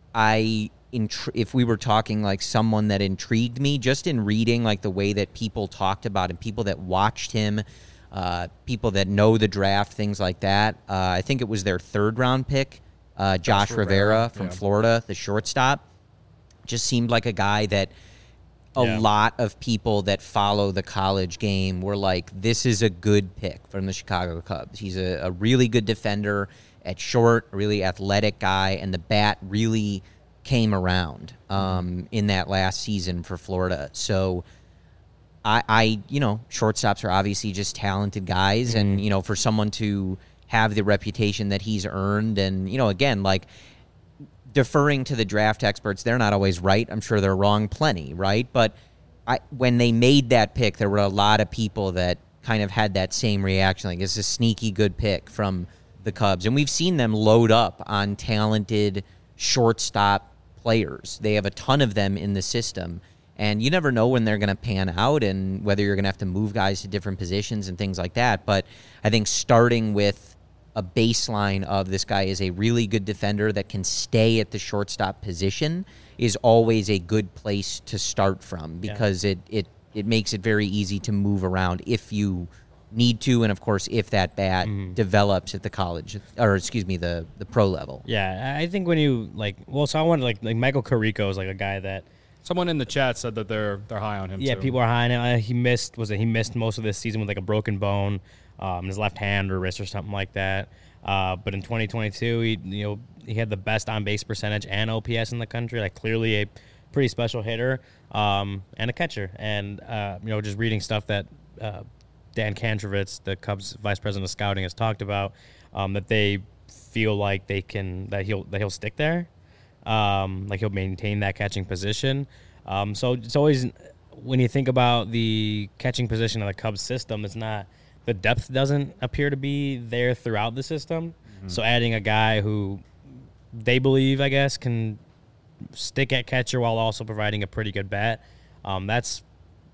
I intri- if we were talking like someone that intrigued me, just in reading like the way that people talked about him, people that watched him, uh, people that know the draft, things like that. Uh, I think it was their third round pick, uh, Josh, Josh Rivera, Rivera, from yeah. Florida, the shortstop. Just seemed like a guy that a Yeah. lot of people that follow the college game were like, this is a good pick from the Chicago Cubs. He's a, a really good defender at short, a really athletic guy, and the bat really came around um, in that last season for Florida. So I, I, you know, shortstops are obviously just talented guys, Mm-hmm. and, you know, for someone to have the reputation that he's earned, and, you know, again, like, deferring to the draft experts, they're not always right. I'm sure they're wrong plenty, right? But I, when they made that pick, there were a lot of people that kind of had that same reaction, like, it's a sneaky good pick from the Cubs. And we've seen them load up on talented shortstop players. They have a ton of them in the system. And you never know when they're going to pan out and whether you're going to have to move guys to different positions and things like that. But I think starting with a baseline of this guy is a really good defender that can stay at the shortstop position is always a good place to start from, because yeah. it, it, it makes it very easy to move around if you need to, and of course if that bat mm. develops at the college or excuse me the the pro level. Yeah, I think when you like well so I wanted like like Michael Carrico is like a guy that someone in the chat said that they're they're high on him. Yeah, too. people are high on him. Uh, he missed was it he missed most of this season with like a broken bone, um, his left hand or wrist or something like that. Uh, but in twenty twenty-two, he you know he had the best on base percentage and O P S in the country. Like clearly a pretty special hitter um, and a catcher. And uh, you know just reading stuff that uh, Dan Kantrovitz, the Cubs vice president of scouting, has talked about, um, that they feel like they can that he'll that he'll stick there, um, like he'll maintain that catching position. Um, so it's always when you think about the catching position of the Cubs system, it's not the depth doesn't appear to be there throughout the system. Mm-hmm. So adding a guy who they believe, I guess, can stick at catcher while also providing a pretty good bat, um, that's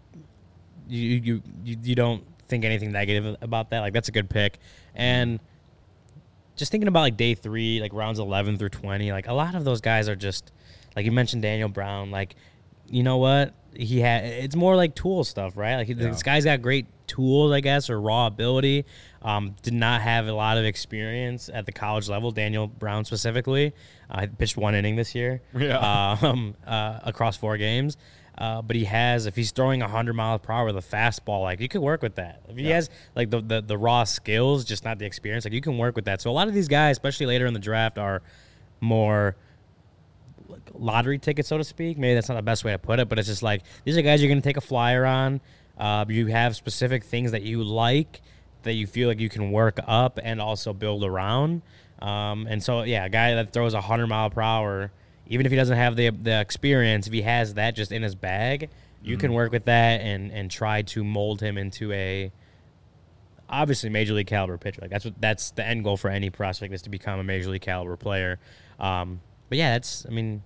you you you, you don't think anything negative about that. Like, that's a good pick. And just thinking about like day three, like rounds eleven through twenty, like a lot of those guys are just, like you mentioned Daniel Brown, like, you know what? He had, it's more like tool stuff, right? Like, yeah. This guy's got great tools, I guess, or raw ability. Um, did not have a lot of experience at the college level, Daniel Brown specifically. I uh, pitched one inning this year yeah. um, uh, across four games. Uh, but he has, if he's throwing one hundred miles per hour with a fastball, like, you could work with that. If he yeah. has, like, the, the, the raw skills, just not the experience, like, you can work with that. So a lot of these guys, especially later in the draft, are more like lottery tickets, so to speak. Maybe that's not the best way to put it, but it's just like, these are guys you're going to take a flyer on. Uh, you have specific things that you like, that you feel like you can work up and also build around. Um, and so, yeah, a guy that throws one hundred mile per hour, even if he doesn't have the the experience, if he has that just in his bag, you mm-hmm. can work with that and and try to mold him into a obviously major league caliber pitcher. Like, that's what that's the end goal for any prospect, is to become a major league caliber player. Um, but yeah, that's I mean,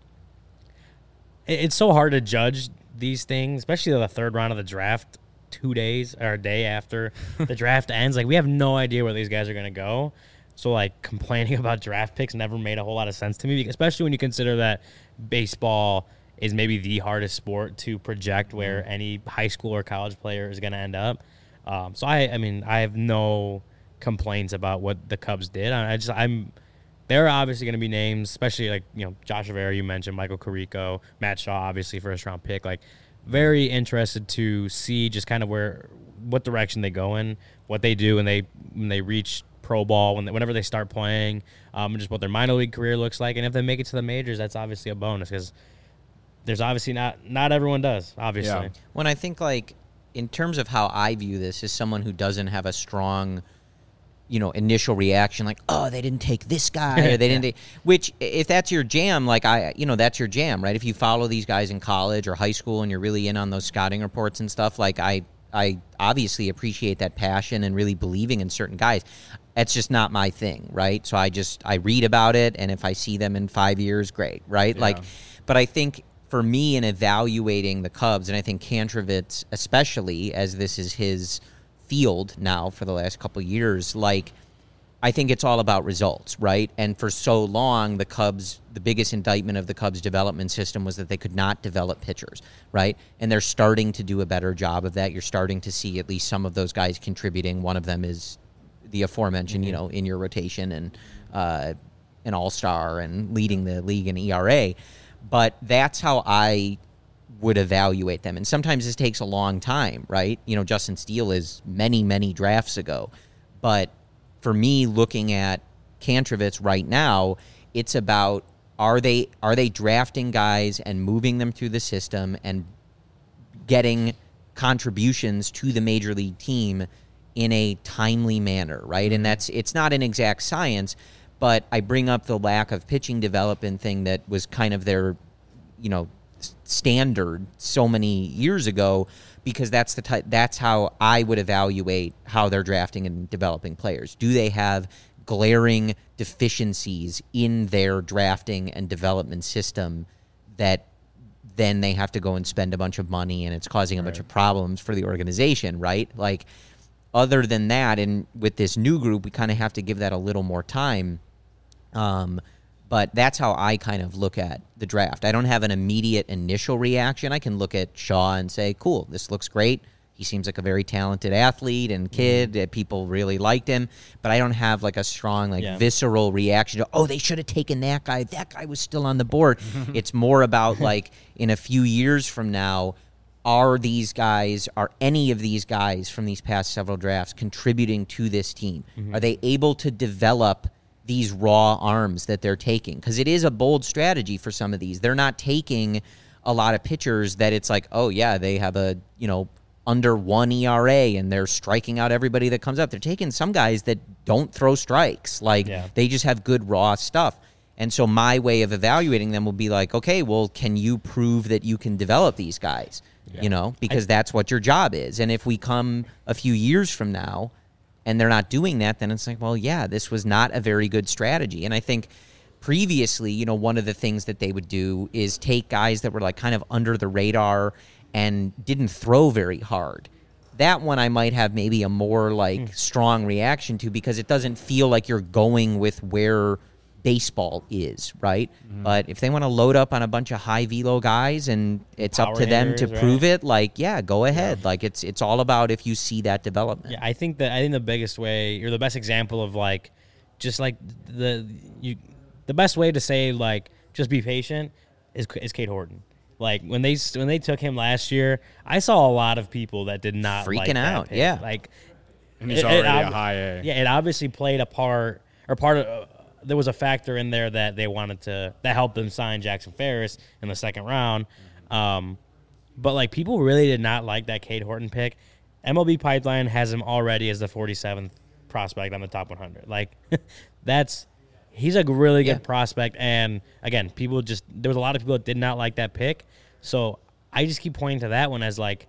it, it's so hard to judge these things, especially the third round of the draft, two days or a day after the draft ends. Like, we have no idea where these guys are going to go. So, like, complaining about draft picks never made a whole lot of sense to me, especially when you consider that baseball is maybe the hardest sport to project where mm-hmm. any high school or college player is going to end up. Um, so, I, I mean, I have no complaints about what the Cubs did. I just, I'm, there are obviously going to be names, especially like, you know, Josh Rivera, you mentioned, Michael Carrico, Matt Shaw, obviously first round pick. Like, very interested to see just kind of where, what direction they go in, what they do when they when they reach pro ball, when they, whenever they start playing, um, and just what their minor league career looks like. And if they make it to the majors, that's obviously a bonus, because there's obviously not not everyone does, obviously. Yeah. When I think, like, in terms of how I view this, as someone who doesn't have a strong, you know, initial reaction, like, oh, they didn't take this guy, or they didn't yeah. take, which, if that's your jam, like, I, you know, that's your jam, right? If you follow these guys in college or high school and you're really in on those scouting reports and stuff, like, I, I obviously appreciate that passion and really believing in certain guys. That's just not my thing, right? So I just, I read about it, and if I see them in five years, great, right? Yeah. Like, but I think for me in evaluating the Cubs, and I think Kantrovitz especially, as this is his field now for the last couple of years, like, I think it's all about results, right? And for so long, the Cubs, the biggest indictment of the Cubs development system was that they could not develop pitchers, right? And they're starting to do a better job of that. You're starting to see at least some of those guys contributing. One of them is the aforementioned, mm-hmm. you know, in your rotation, and uh, an all-star and leading the league in E R A. But that's how I would evaluate them. And sometimes this takes a long time, right? You know, Justin Steele is many, many drafts ago. But for me, looking at Kantrovitz right now, it's about, are they are they drafting guys and moving them through the system and getting contributions to the major league team in a timely manner, right? And that's, it's not an exact science, but I bring up the lack of pitching development thing that was kind of their, you know, standard so many years ago, because that's the ty- that's how I would evaluate how they're drafting and developing players. Do they have glaring deficiencies in their drafting and development system that then they have to go and spend a bunch of money, and it's causing a right. bunch of problems for the organization, right? Like, other than that, and with this new group, we kind of have to give that a little more time. Um, but that's how I kind of look at the draft. I don't have an immediate initial reaction. I can look at Shaw and say, cool, this looks great. He seems like a very talented athlete and kid. Mm-hmm. People really liked him. But I don't have like a strong, like yeah. visceral reaction to, oh, they should have taken that guy. That guy was still on the board. It's more about like, in a few years from now, are these guys, are any of these guys from these past several drafts contributing to this team? Mm-hmm. Are they able to develop these raw arms that they're taking? Because it is a bold strategy for some of these. They're not taking a lot of pitchers that it's like, oh, yeah, they have a, you know, under one E R A and they're striking out everybody that comes up. They're taking some guys that don't throw strikes. Like, yeah. they just have good raw stuff. And so my way of evaluating them will be like, okay, well, can you prove that you can develop these guys? Yeah. You know, because I, that's what your job is. And if we come a few years from now and they're not doing that, then it's like, well, yeah, this was not a very good strategy. And I think previously, you know, one of the things that they would do is take guys that were like kind of under the radar and didn't throw very hard that one I might have maybe a more like mm. strong reaction to because it doesn't feel like you're going with where baseball is, right? Mm. But if they want to load up on a bunch of high velo guys and it's Power up to them to prove right? it, like, yeah, go ahead. Yeah. Like it's it's all about if you see that development. Yeah, I think that I think the biggest way or the best example of like just like the you the best way to say like just be patient is is Cade Horton. Like when they when they took him last year, I saw a lot of people that did not freaking like out. Pick. Yeah, like and he's it, already it, a high A. Yeah, it obviously played a part or part of. Uh, there was a factor in there that they wanted to that helped them sign Jackson Ferris in the second round. Um, but like people really did not like that Cade Horton pick. M L B Pipeline has him already as the forty-seventh prospect on the top one hundred. Like that's. He's a really good yeah. prospect, and again, people just there was a lot of people that did not like that pick. So I just keep pointing to that one as like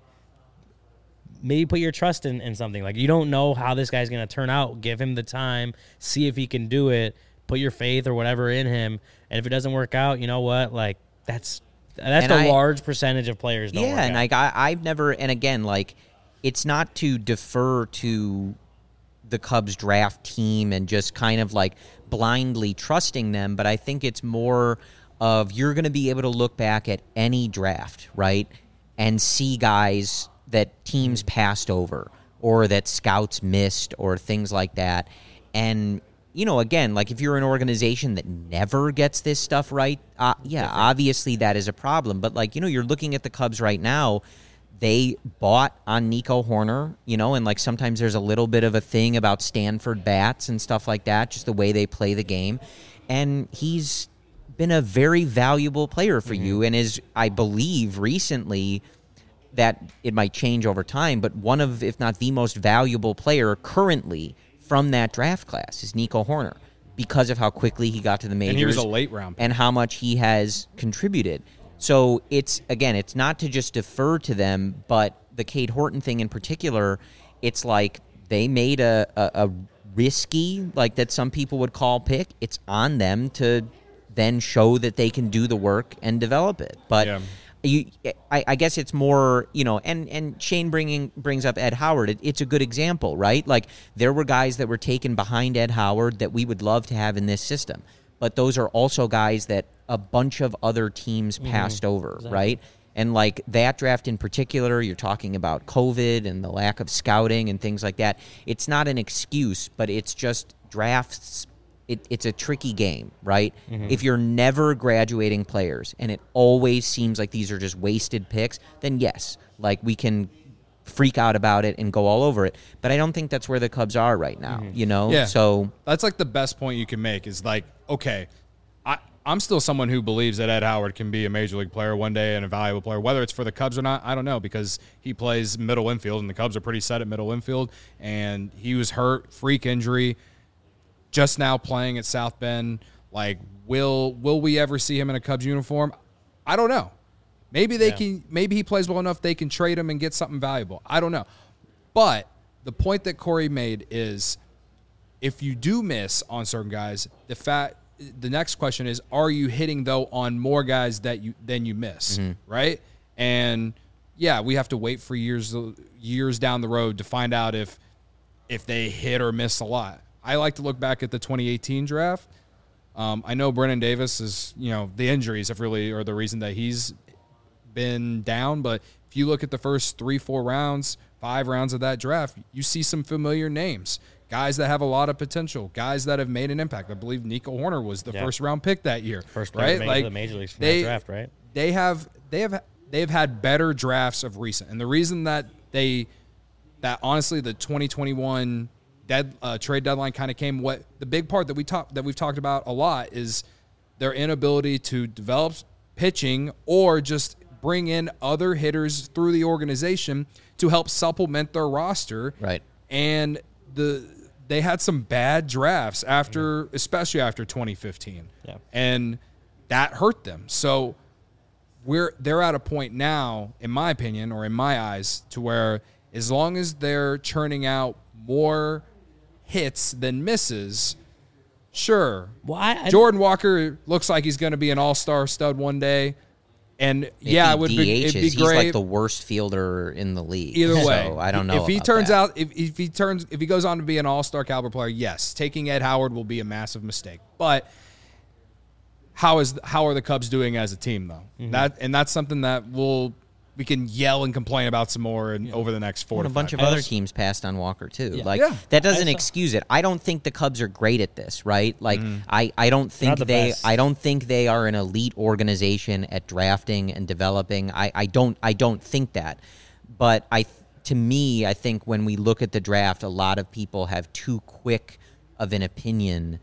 maybe put your trust in, in something. Like you don't know how this guy's going to turn out. Give him the time, see if he can do it. Put your faith or whatever in him, and if it doesn't work out, you know what? Like that's that's and the I, large percentage of players. Don't yeah, work and out. like I, I've never, and again, like it's not to defer to the Cubs draft team and just kind of like blindly trusting them, but I think it's more of you're going to be able to look back at any draft, right, and see guys that teams passed over or that scouts missed or things like that. And, you know, again, like if you're an organization that never gets this stuff right, uh, yeah, Different. obviously that is a problem. But, like, you know, you're looking at the Cubs right now. They bought on Nico Hoerner, you know, and like sometimes there's a little bit of a thing about Stanford bats and stuff like that, just the way they play the game. And he's been a very valuable player for mm-hmm. you and is, I believe, recently that it might change over time, but one of, if not the most valuable player currently from that draft class is Nico Hoerner because of how quickly he got to the majors. And he was a late round pick. And how much he has contributed. So it's, again, it's not to just defer to them, but the Cade Horton thing in particular, it's like they made a, a, a risky, like that some people would call pick. It's on them to then show that they can do the work and develop it. But yeah. you, I, I guess it's more, you know, and, and Shane bringing brings up Ed Howard. It, it's a good example, right? Like there were guys that were taken behind Ed Howard that we would love to have in this system. But those are also guys that a bunch of other teams passed mm-hmm. over, exactly. right? And like that draft in particular, you're talking about COVID and the lack of scouting and things like that. It's not an excuse, but it's just drafts. It, it's a tricky game, right? Mm-hmm. If you're never graduating players and it always seems like these are just wasted picks, then yes, like we can freak out about it and go all over it. But I don't think that's where the Cubs are right now, mm-hmm. you know? Yeah. So that's like the best point you can make is like, okay, I, I'm still someone who believes that Ed Howard can be a major league player one day and a valuable player. Whether it's for the Cubs or not, I don't know, because he plays middle infield, and the Cubs are pretty set at middle infield, and he was hurt, freak injury, just now playing at South Bend. Like, will will we ever see him in a Cubs uniform? I don't know. Maybe they yeah. can. Maybe he plays well enough they can trade him and get something valuable. I don't know. But the point that Corey made is, if you do miss on certain guys, the fact the next question is, are you hitting though on more guys that you than you miss, mm-hmm. right? And yeah, we have to wait for years years down the road to find out if if they hit or miss a lot. I like to look back at the twenty eighteen draft. Um, I know Brennan Davis is, you know, the injuries have really are the reason that he's been down, but if you look at the first three, four rounds, five rounds of that draft, you see some familiar names, guys that have a lot of potential, guys that have made an impact. I believe Nico Hoerner was the yeah. first round pick that year, first right? Like the major leagues from they, that draft, right? They have they have they've had better drafts of recent, and the reason that they that honestly the twenty twenty-one dead uh, trade deadline kind of came. What the big part that we talk that we've talked about a lot is their inability to develop pitching or just bring in other hitters through the organization to help supplement their roster. Right. And the they had some bad drafts after, mm-hmm. especially after twenty fifteen. Yeah. And that hurt them. So we're they're at a point now, in my opinion, or in my eyes, to where as long as they're churning out more hits than misses, sure. Well, I, I, Jordan Walker looks like he's going to be an all-star stud one day. And If yeah, he it would be, D Hs, it'd be he's great. like the worst fielder in the league. Either way, so I don't know. If he about turns that. out, if, if he turns, if he goes on to be an all-star caliber player, yes, taking Ed Howard will be a massive mistake. But how is how are the Cubs doing as a team though? Mm-hmm. That and that's something that we'll we can yell and complain about some more in, yeah. over the next four. And to a bunch five of years. other teams passed on Walker too. Yeah. Like yeah. that doesn't excuse it. I don't think the Cubs are great at this, right? Like mm. I, I don't think the they best. I don't think they are an elite organization at drafting and developing. I, I don't I don't think that. But I to me, I think when we look at the draft, a lot of people have too quick of an opinion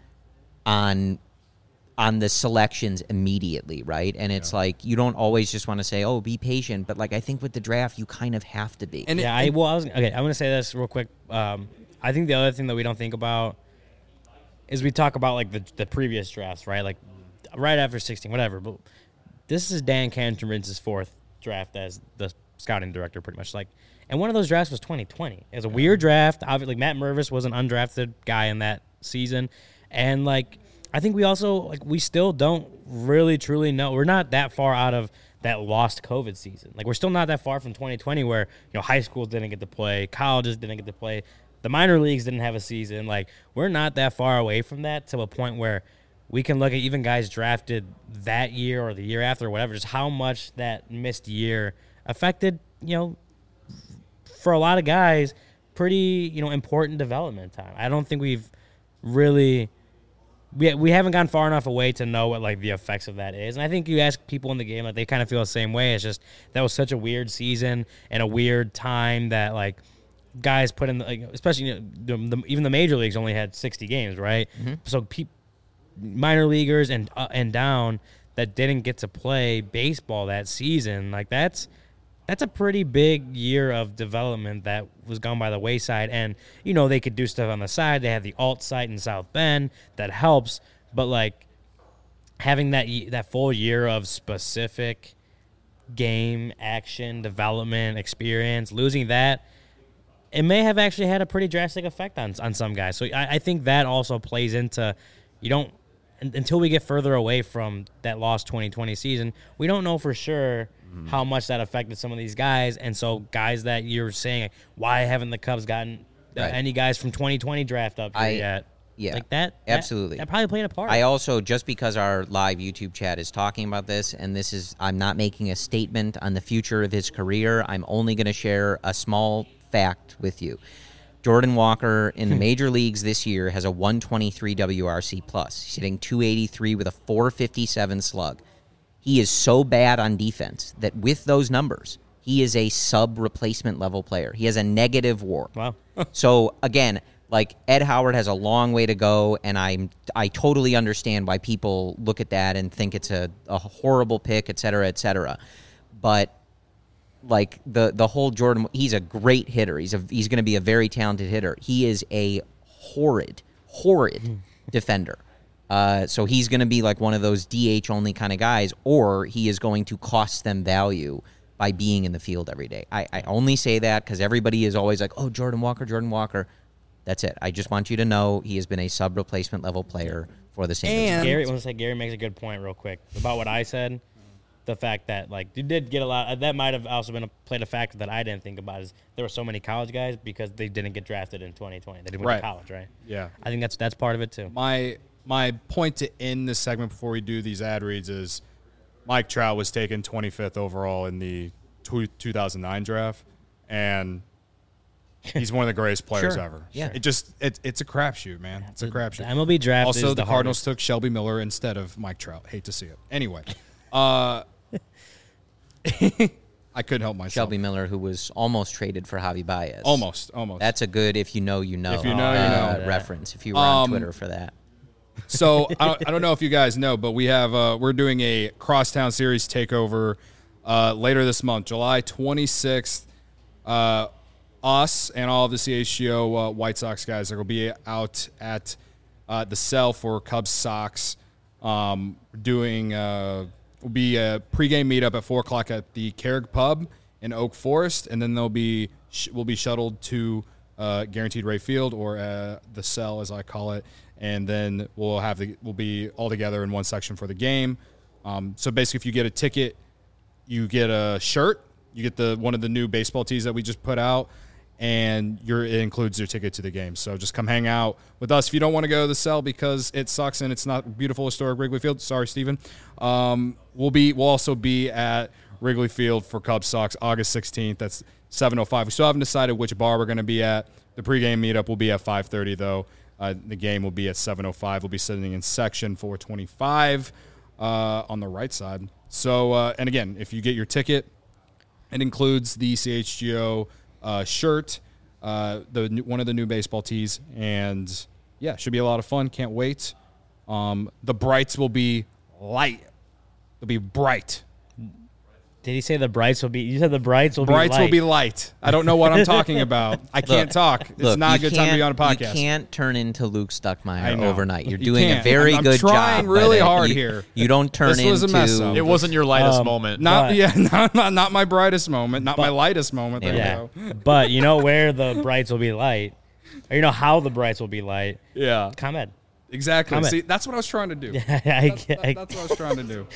on on the selections immediately, right? And it's yeah. like you don't always just want to say, "Oh, be patient," but like I think with the draft, you kind of have to be. And yeah, it, I well, I was okay. I'm gonna say this real quick. Um, I think the other thing that we don't think about is we talk about like the the previous drafts, right? Like right after sixteen, whatever. But this is Dan Canterbury's fourth draft as the scouting director, pretty much. Like, and one of those drafts was twenty twenty. It was a yeah. weird draft. Obviously, like, Matt Mervis was an undrafted guy in that season, and like. I think we also, like, we still don't really truly know. We're not that far out of that lost COVID season. Like, we're still not that far from twenty twenty where, you know, high schools didn't get to play, colleges didn't get to play, the minor leagues didn't have a season. Like, we're not that far away from that to a point where we can look at even guys drafted that year or the year after or whatever, just how much that missed year affected, you know, for a lot of guys, pretty, you know, important development time. I don't think we've really – We we haven't gone far enough away to know what like the effects of that is, and I think you ask people in the game, like they kind of feel the same way. It's just that was such a weird season and a weird time that like guys put in, the, like, especially you know, the, the, even the major leagues only had sixty games, right? Mm-hmm. So pe- minor leaguers and uh, and down that didn't get to play baseball that season, like that's. That's a pretty big year of development that was gone by the wayside. And, you know, they could do stuff on the side. They have the alt site in South Bend that helps. But, like, having that that full year of specific game, action, development, experience, losing that, it may have actually had a pretty drastic effect on, on some guys. So I, I think that also plays into, you don't, until we get further away from that lost twenty twenty season, we don't know for sure mm-hmm. how much that affected some of these guys. And so guys that you're saying, why haven't the Cubs gotten uh, right. any guys from twenty twenty draft up here I, yet? Yeah, like that. Absolutely. That, that probably played a part. I also, just because our live YouTube chat is talking about this, and this is, I'm not making a statement on the future of his career. I'm only going to share a small fact with you. Jordan Walker in the major leagues this year has a one twenty-three W R C plus. He's hitting two eighty-three with a four fifty-seven slug. He is so bad on defense that with those numbers, he is a sub-replacement level player. He has a negative WAR. Wow. So, again, like Ed Howard has a long way to go, and I'm I totally understand why people look at that and think it's a, a horrible pick, et cetera, et cetera. But like the the whole Jordan, he's a great hitter. He's a he's going to be a very talented hitter. He is a horrid, horrid defender. Uh, so he's going to be like one of those D H only kind of guys, or he is going to cost them value by being in the field every day. I, I only say that because everybody is always like, oh, Jordan Walker, Jordan Walker. That's it. I just want you to know he has been a sub-replacement level player for the Saint Louis. Gary, I want to say Gary makes a good point real quick about what I said. The fact that, like, you did get a lot – that might have also been a, played a factor that I didn't think about is there were so many college guys because they didn't get drafted in twenty twenty. They didn't right. go to college, right? Yeah. I think that's that's part of it too. My my point to end this segment before we do these ad reads is Mike Trout was taken twenty-fifth overall in the two thousand nine draft, and he's one of the greatest players sure. ever. Yeah. It just it, it's a crapshoot, man. It's a crapshoot. The M L B draft Also, is the, the Cardinals hardest. took Shelby Miller instead of Mike Trout. Hate to see it. Anyway, uh, I couldn't help myself. Shelby Miller, who was almost traded for Javi Baez. Almost, almost. That's a good if you know, you know. If you know, uh, you know. reference. If you were on Um, Twitter for that. So I don't, I don't know if you guys know, but we have uh, we're doing a Crosstown Series takeover uh, later this month, July twenty-sixth. Uh, us and all of the C H G O uh, White Sox guys are going to be out at uh, the Cell for Cubs Sox. Um, doing uh, will be a pregame meetup at four o'clock at the Carrick Pub in Oak Forest, and then they'll be sh- will be shuttled to uh, Guaranteed Rate Field, or uh, the Cell as I call it, and then we'll have the we'll be all together in one section for the game. Um, so basically, if you get a ticket you get a shirt. You get the one of the new baseball tees that we just put out, and your it includes your ticket to the game. So just come hang out with us. If you don't want to go to the cell because it sucks and it's not beautiful historic Wrigley Field, sorry, Steven. Um, we'll be we'll also be at Wrigley Field for Cubs Sox August sixteenth. That's seven oh five. We still haven't decided which bar we're going to be at. The pregame meetup will be at five thirty though. Uh, the game will be at seven oh five. We'll be sitting in section four twenty-five uh, on the right side. So uh, and again, if you get your ticket, it includes the C H G O uh, shirt, uh, the one of the new baseball tees, and yeah, should be a lot of fun. Can't wait. Um, the brights will be light. They'll be bright. Did he say the brights will be? You said the brights will brights be light. will be light. I don't know what I'm talking about. I can't Look, talk. It's look, not a you good time to be on a can't- podcast. You can't turn into Luke I Stuckmeyer know. overnight. You're You doing a can't. very I'm- I'm good trying job. really but, uh, hard you, here. You don't turn This was a into. mess up. It wasn't your lightest Um, moment. Not But- yeah, not, not not my brightest moment, not my But- lightest moment. There Yeah, you go. but you know where the brights will be light, or you know how the brights will be light. Yeah, ComEd. exactly. Comment. See, that's what I was trying to do. I, That's, I, that- that's what I was trying to do.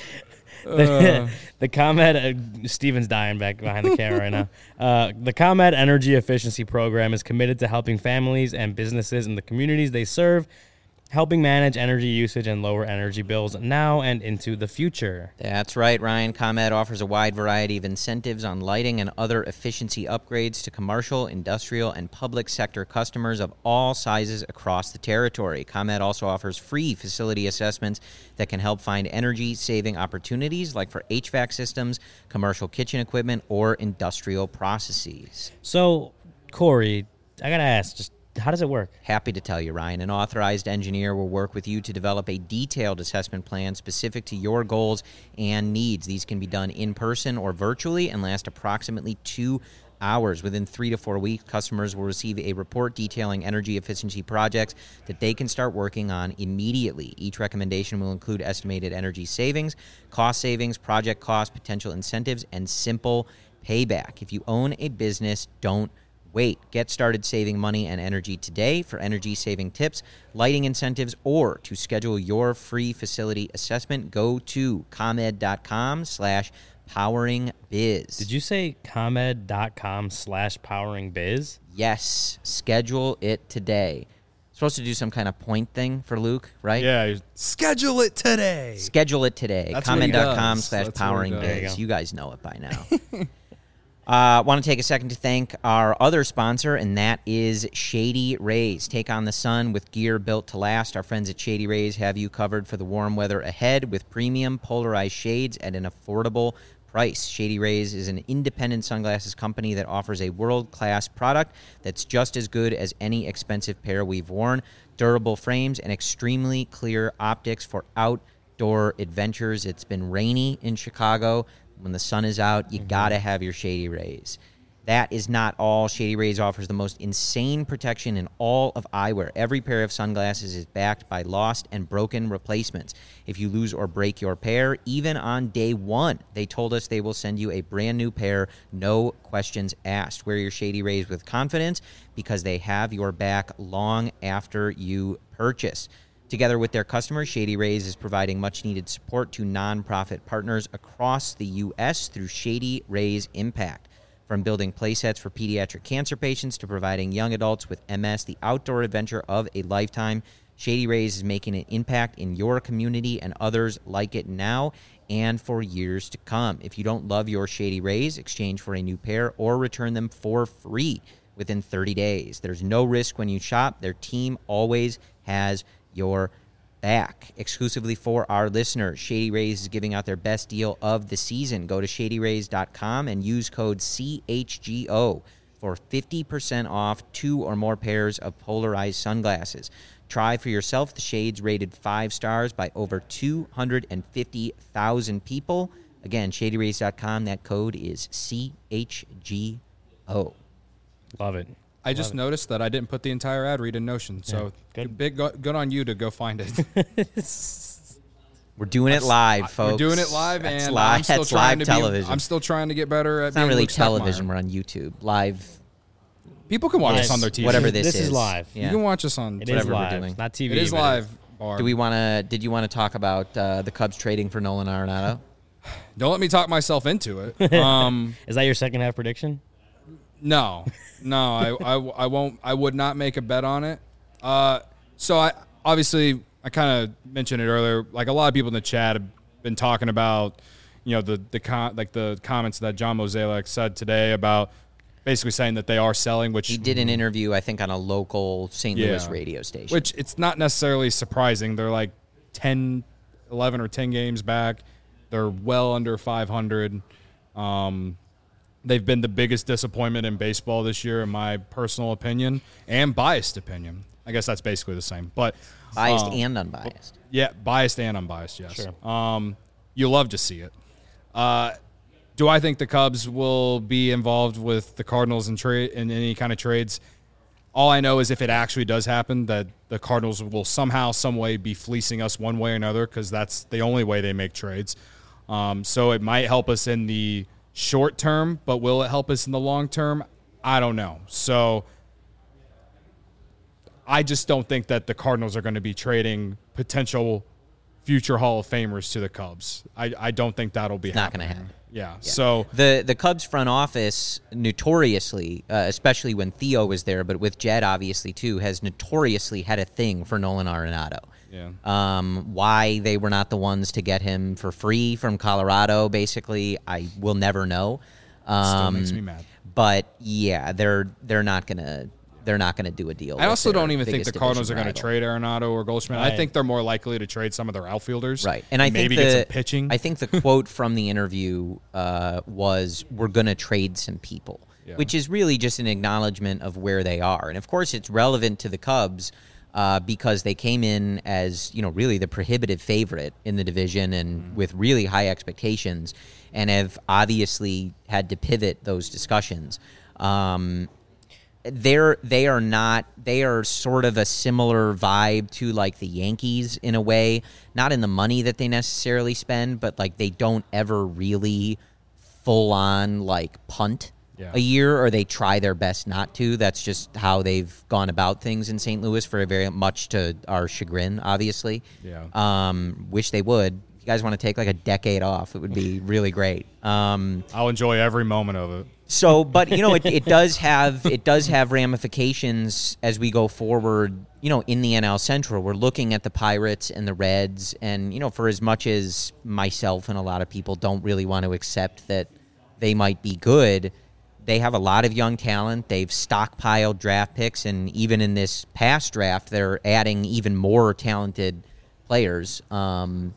the, the ComEd, uh, Steven's dying back behind the camera right now. Uh, the ComEd Energy Efficiency Program is committed to helping families and businesses in the communities they serve, helping manage energy usage and lower energy bills now and into the future. That's right, Ryan. ComEd offers a wide variety of incentives on lighting and other efficiency upgrades to commercial, industrial, and public sector customers of all sizes across the territory. ComEd also offers free facility assessments that can help find energy-saving opportunities like for H V A C systems, commercial kitchen equipment, or industrial processes. So, Corey, I got to ask, just how does it work? Happy to tell you, Ryan. An authorized engineer will work with you to develop a detailed assessment plan specific to your goals and needs. These can be done in person or virtually and last approximately two hours. Within three to four weeks, customers will receive a report detailing energy efficiency projects that they can start working on immediately. Each recommendation will include estimated energy savings, cost savings, project costs, potential incentives, and simple payback. If you own a business, don't wait. Get started saving money and energy today. For energy saving tips, lighting incentives, or to schedule your free facility assessment, go to ComEd.com slash powering biz. Did you say ComEd.com slash powering biz? Yes. Schedule it today. Supposed to do some kind of point thing for Luke, right? Yeah, schedule it today. Schedule it today. That's what he ComEd.com does. slash That's what he powering does. There you biz. go. You guys know it by now. I uh, want to take a second to thank our other sponsor, and that is Shady Rays. Take on the sun with gear built to last. Our friends at Shady Rays have you covered for the warm weather ahead with premium polarized shades at an affordable price. Shady Rays is an independent sunglasses company that offers a world-class product that's just as good as any expensive pair we've worn. Durable frames and extremely clear optics for outdoor adventures. It's been rainy in Chicago. When the sun is out, you mm-hmm. got to have your Shady Rays. That is not all. Shady Rays offers the most insane protection in all of eyewear. Every pair of sunglasses is backed by lost and broken replacements. If you lose or break your pair, even on day one, they told us they will send you a brand new pair, no questions asked. Wear your Shady Rays with confidence because they have your back long after you purchase. Together with their customers, Shady Rays is providing much-needed support to nonprofit partners across the U S through Shady Rays Impact. From building playsets for pediatric cancer patients to providing young adults with M S the outdoor adventure of a lifetime, Shady Rays is making an impact in your community and others like it now and for years to come. If you don't love your Shady Rays, exchange for a new pair or return them for free within thirty days. There's no risk when you shop. Their team always has your back. Exclusively for our listeners, Shady Rays is giving out their best deal of the season. Go to shady rays dot com and use code C H G O for fifty percent off two or more pairs of polarized sunglasses. Try for yourself the shades rated five stars by over two hundred fifty thousand people. Again, shady rays dot com. That code is C H G O. Love it. I just Love noticed that I didn't put the entire ad read in Notion, so Yeah, good. big go, good on you to go find it. We're doing it live, folks. We're doing it live, That's and live, I'm still that's trying live to television. be. I'm still trying to get better at. It's not being really Luke television. Stuckmeyer. We're on YouTube. Live. People can watch Yes. us on their T V. Whatever this, This is live. Yeah. You can watch us on. It is Whatever we're live, doing. not T V. It is but live. Barb. Do we want to? Did you want to talk about uh, the Cubs trading for Nolan Arenado? Don't let me talk myself into it. Um, Is that your second half prediction? No, no, I, I, I won't. I would not make a bet on it. Uh, so I obviously I kind of mentioned it earlier. Like a lot of people in the chat have been talking about, you know, the the con- like the comments that John Mozeliak said today about basically saying that they are selling. Which He did an interview, I think, on a local Saint Yeah. Louis radio station. Which it's not necessarily surprising. They're like ten, eleven or ten games back. They're well under five hundred. Um, they've been the biggest disappointment in baseball this year, in my personal opinion, and biased opinion. I guess that's basically the same. But biased um, and unbiased. Yeah, biased and unbiased, yes. Sure. Um, you love to see it. Uh, do I think the Cubs will be involved with the Cardinals in trade in any kind of trades? All I know is if it actually does happen, that the Cardinals will somehow, some way be fleecing us one way or another, because that's the only way they make trades. Um, so it might help us in the short term, but will it help us in the long term? I don't know. So I just don't think that the Cardinals are going to be trading potential future Hall of Famers to the Cubs. I, I don't think that'll be It's not happening. going to happen. Yeah. Yeah. So the the Cubs front office notoriously, uh, especially when Theo was there, but with Jed obviously too, has notoriously had a thing for Nolan Arenado. yeah. Um, why they were not the ones to get him for free from Colorado, basically, I will never know. Um, Still makes me mad. But yeah, they're they're not gonna they're not gonna do a deal. I with also their don't even think the biggest Cardinals are division going to rival. trade Arenado or Goldschmidt. Right. I think they're more likely to trade some of their outfielders. Right, and I maybe think the, get some pitching. I think the quote from the interview uh, was, "We're going to trade some people," Yeah. which is really just an acknowledgement of where they are. And of course, it's relevant to the Cubs uh, because they came in as, you know, really the prohibitive favorite in the division and Mm-hmm. with really high expectations, and have obviously had to pivot those discussions. Um, they're they are not they are sort of a similar vibe to like the Yankees in a way, not in the money that they necessarily spend, but like they don't ever really full on like punt Yeah. a year, or they try their best not to. That's just how they've gone about things in Saint Louis, for very much to our chagrin, obviously. Yeah. Um, wish they would. If you guys want to take like a decade off, it would be really great. Um, I'll enjoy every moment of it. so, but you know, it, it does have it does have ramifications as we go forward. You know, in the N L Central, we're looking at the Pirates and the Reds, and you know, for as much as myself and a lot of people don't really want to accept that they might be good, they have a lot of young talent. They've stockpiled draft picks, and even in this past draft, they're adding even more talented players. Um,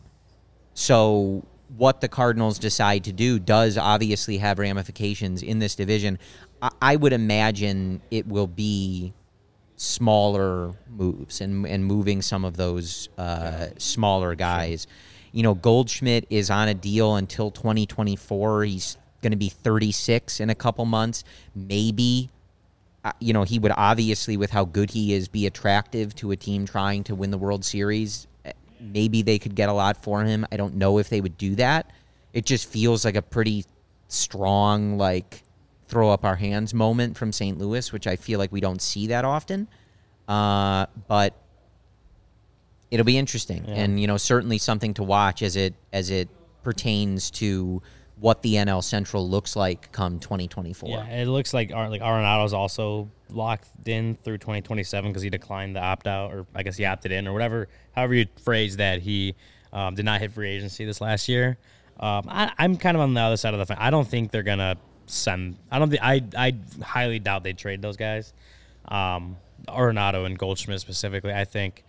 so what the Cardinals decide to do does obviously have ramifications in this division. I, I would imagine it will be smaller moves and and moving some of those uh, smaller guys. You know, Goldschmidt is on a deal until twenty twenty-four. He's going to be thirty-six in a couple months. Maybe, uh, you know, he would obviously, with how good he is, be attractive to a team trying to win the World Series. Maybe they could get a lot for him. I don't know if they would do that. It just feels like a pretty strong, like, throw up our hands moment from Saint Louis, which I feel like we don't see that often. Uh, but it'll be interesting, Yeah. and you know, certainly something to watch as it as it pertains to what the N L Central looks like come twenty twenty-four. Yeah, it looks like Ar- like Arenado's also locked in through twenty twenty-seven because he declined the opt out, or I guess he opted in, or whatever. However you phrase that, he um, did not hit free agency this last year. Um, I, I'm kind of on the other side of the fence. I don't think they're gonna send. I don't think. I I highly doubt they trade those guys. Um, Arenado and Goldschmidt specifically. I think.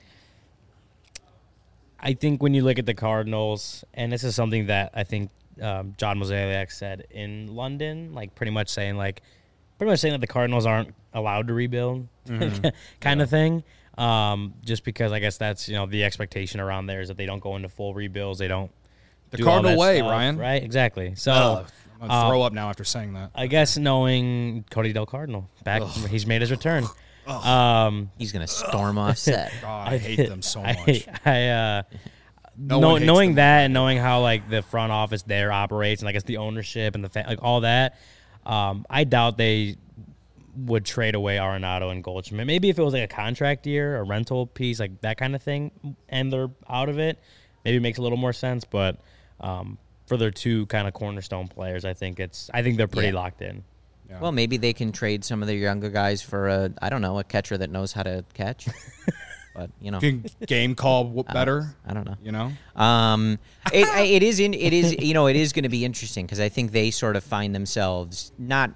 I think when you look at the Cardinals, and this is something that I think um, John Mozeliak said in London, like pretty much saying like, pretty much saying that the Cardinals aren't allowed to rebuild, Mm-hmm. kind Yeah. of thing. Um, just because I guess that's, you know, the expectation around there is that they don't go into full rebuilds. They don't. The do all Cardinal that way, stuff, Ryan. Right? Exactly. So Ugh, I'm gonna um, throw up now after saying that. I guess knowing Cody Del Cardinal back, he's made his return. Um, He's gonna storm off set. God, I hate them so much. I, I uh, No know, one hates knowing them that more. and knowing how like the front office there operates and I guess the ownership and the fa- like all that, um, I doubt they would trade away Arenado and Goldschmidt. Maybe if it was like a contract year, a rental piece, like that kind of thing, and they're out of it, maybe it makes a little more sense. But um, for their two kind of cornerstone players, I think it's I think they're pretty Yeah. locked in. Yeah. Well, maybe they can trade some of their younger guys for a, I don't know, a catcher that knows how to catch. But, you know. Can game call w- better. I don't know. You know. Um, it, I- it is in, it is you know it is going to be interesting because I think they sort of find themselves not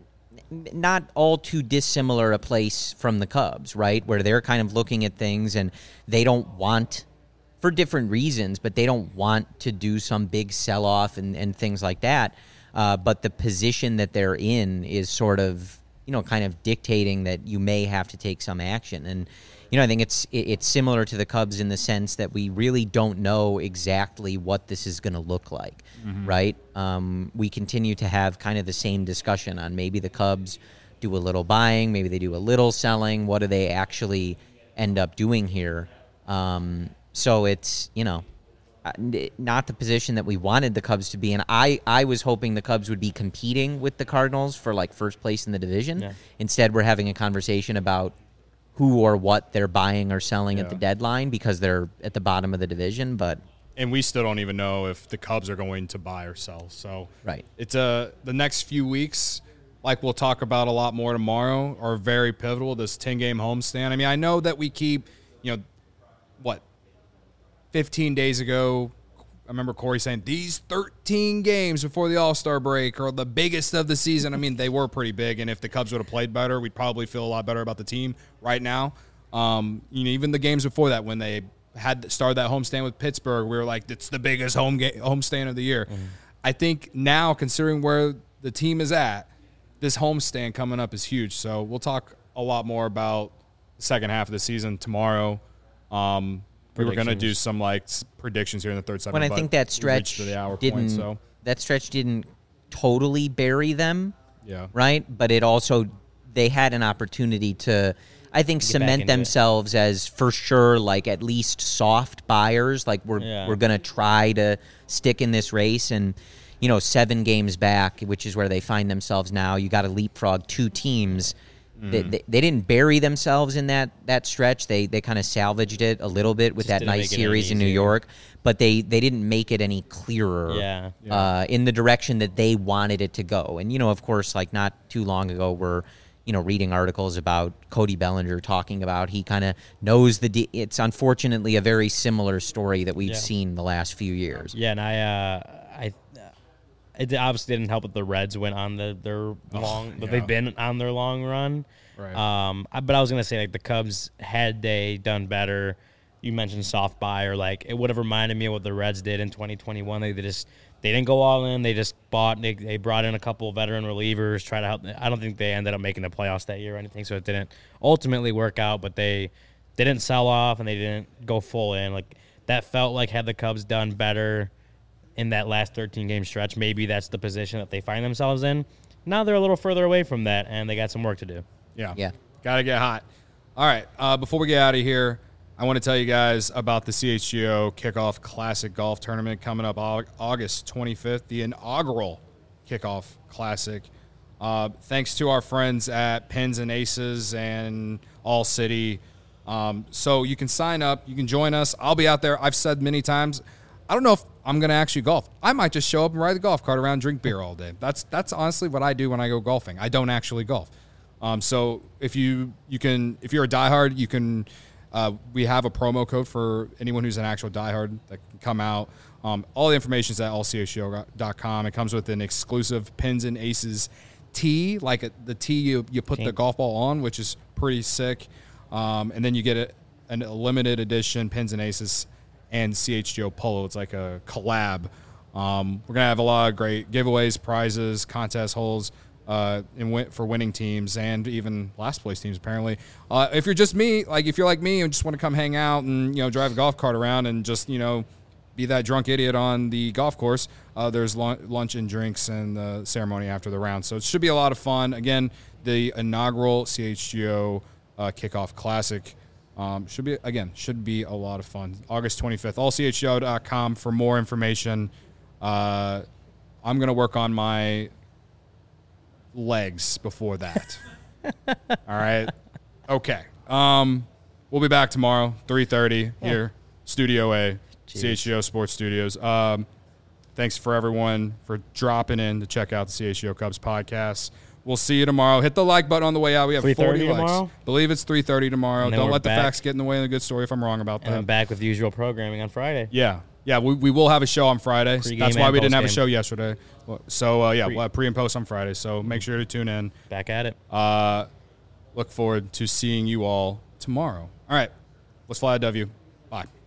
not all too dissimilar a place from the Cubs, right? Where they're kind of looking at things and they don't want, for different reasons, but they don't want to do some big sell off and, and things like that. Uh, but the position that they're in is sort of you know kind of dictating that you may have to take some action and. You know, I think it's it's similar to the Cubs in the sense that we really don't know exactly what this is going to look like, mm-hmm. right? Um, we continue to have kind of the same discussion on maybe the Cubs do a little buying, maybe they do a little selling. What do they actually end up doing here? Um, so it's, you know, not the position that we wanted the Cubs to be in. I, I was hoping the Cubs would be competing with the Cardinals for, like, first place in the division. Yeah. Instead, we're having a conversation about who or what they're buying or selling Yeah. at the deadline because they're at the bottom of the division, but And we still don't even know if the Cubs are going to buy or sell. So right. it's a the next few weeks, like we'll talk about a lot more tomorrow, are very pivotal. This ten-game homestand. I mean, I know that we keep, you know, what, fifteen days ago, I remember Corey saying these thirteen games before the All-Star break are the biggest of the season. I mean, they were pretty big, and if the Cubs would have played better, we'd probably feel a lot better about the team right now. Um, you know, even the games before that, when they had started that homestand with Pittsburgh, we were like, it's the biggest home ga- homestand of the year. Mm-hmm. I think now, considering where the team is at, this homestand coming up is huge. So we'll talk a lot more about the second half of the season tomorrow. Um, We were going to do some like predictions here in the third segment. When I think that stretch to the hour didn't point, so. that stretch didn't totally bury them, Yeah. right? But it also they had an opportunity to, I think, Get back cement into it. themselves as for sure like at least soft buyers. Like we're Yeah. we're going to try to stick in this race, and you know, seven games back, which is where they find themselves now. You got to leapfrog two teams. They, they, they didn't bury themselves in that, that stretch. They they kind of salvaged it a little bit with Just that didn't nice make it any series in New easier. York, but they, they didn't make it any clearer Yeah. uh, in the direction that they wanted it to go. And, you know, of course, like not too long ago, we're, you know, reading articles about Cody Bellinger talking about he kind of knows the de- – it's unfortunately a very similar story that we've Yeah. seen the last few years. Yeah, and I, uh, I, it obviously didn't help that the Reds went on the their long, but yeah. they've been on their long run. Right. Um, I- but I was gonna say like the Cubs had they done better. You mentioned soft buy or like it would have reminded me of what the Reds did in twenty twenty-one. They, they just they didn't go all in. They just bought. They, they brought in a couple of veteran relievers, try to help. I don't think they ended up making the playoffs that year or anything, so it didn't ultimately work out. But they didn't sell off and they didn't go full in. Like that felt like had the Cubs done better in that last thirteen game stretch, maybe that's the position that they find themselves in. Now they're a little further away from that, and they got some work to do. Yeah. Yeah. Got to get hot. All right. Uh, before we get out of here, I want to tell you guys about the C H G O Kickoff Classic Golf Tournament coming up Au- August twenty-fifth, the inaugural Kickoff Classic. Uh, thanks to our friends at Pins and Aces and All City. Um, so you can sign up. You can join us. I'll be out there. I've said many times, I don't know if I'm going to actually golf. I might just show up and ride the golf cart around, drink beer all day. That's that's honestly what I do when I go golfing. I don't actually golf. Um, so if you you can if you're a diehard, you can. Uh, we have a promo code for anyone who's an actual diehard that can come out. Um, all the information is at all c h g o dot com. It comes with an exclusive Pins and Aces tee, like a, the tee you, you put Team. the golf ball on, which is pretty sick. Um, and then you get a, an, a limited edition Pins and Aces and C H G O polo. It's like a collab. Um, we're going to have a lot of great giveaways, prizes, contest holes uh, and win- for winning teams and even last place teams, apparently. Uh, if you're just me, like if you're like me and just want to come hang out and, you know, drive a golf cart around and just, you know, be that drunk idiot on the golf course, uh, there's lun- lunch and drinks and the ceremony after the round. So it should be a lot of fun. Again, the inaugural C H G O uh, Kickoff Classic. Um, should be again should be a lot of fun. August twenty-fifth, all c h g o dot com for more information. Uh, I'm gonna work on my legs before that. All right. Okay. Um, we'll be back tomorrow, three thirty here, Studio A, Jeez. C H G O Sports Studios. Um, thanks for everyone for dropping in to check out the C H G O Cubs podcast. We'll see you tomorrow. Hit the like button on the way out. We have forty likes. Tomorrow? Believe it's three thirty tomorrow. Don't let the back. facts get in the way of the good story if I'm wrong about that. And I'm back with the usual programming on Friday. Yeah. Yeah, we, we will have a show on Friday. Pre-game That's why we didn't have a game. show yesterday. So, uh, yeah, pre. We'll have pre and post on Friday. So make sure to tune in. Back at it. Uh, look forward to seeing you all tomorrow. All right. Let's fly a W. Bye.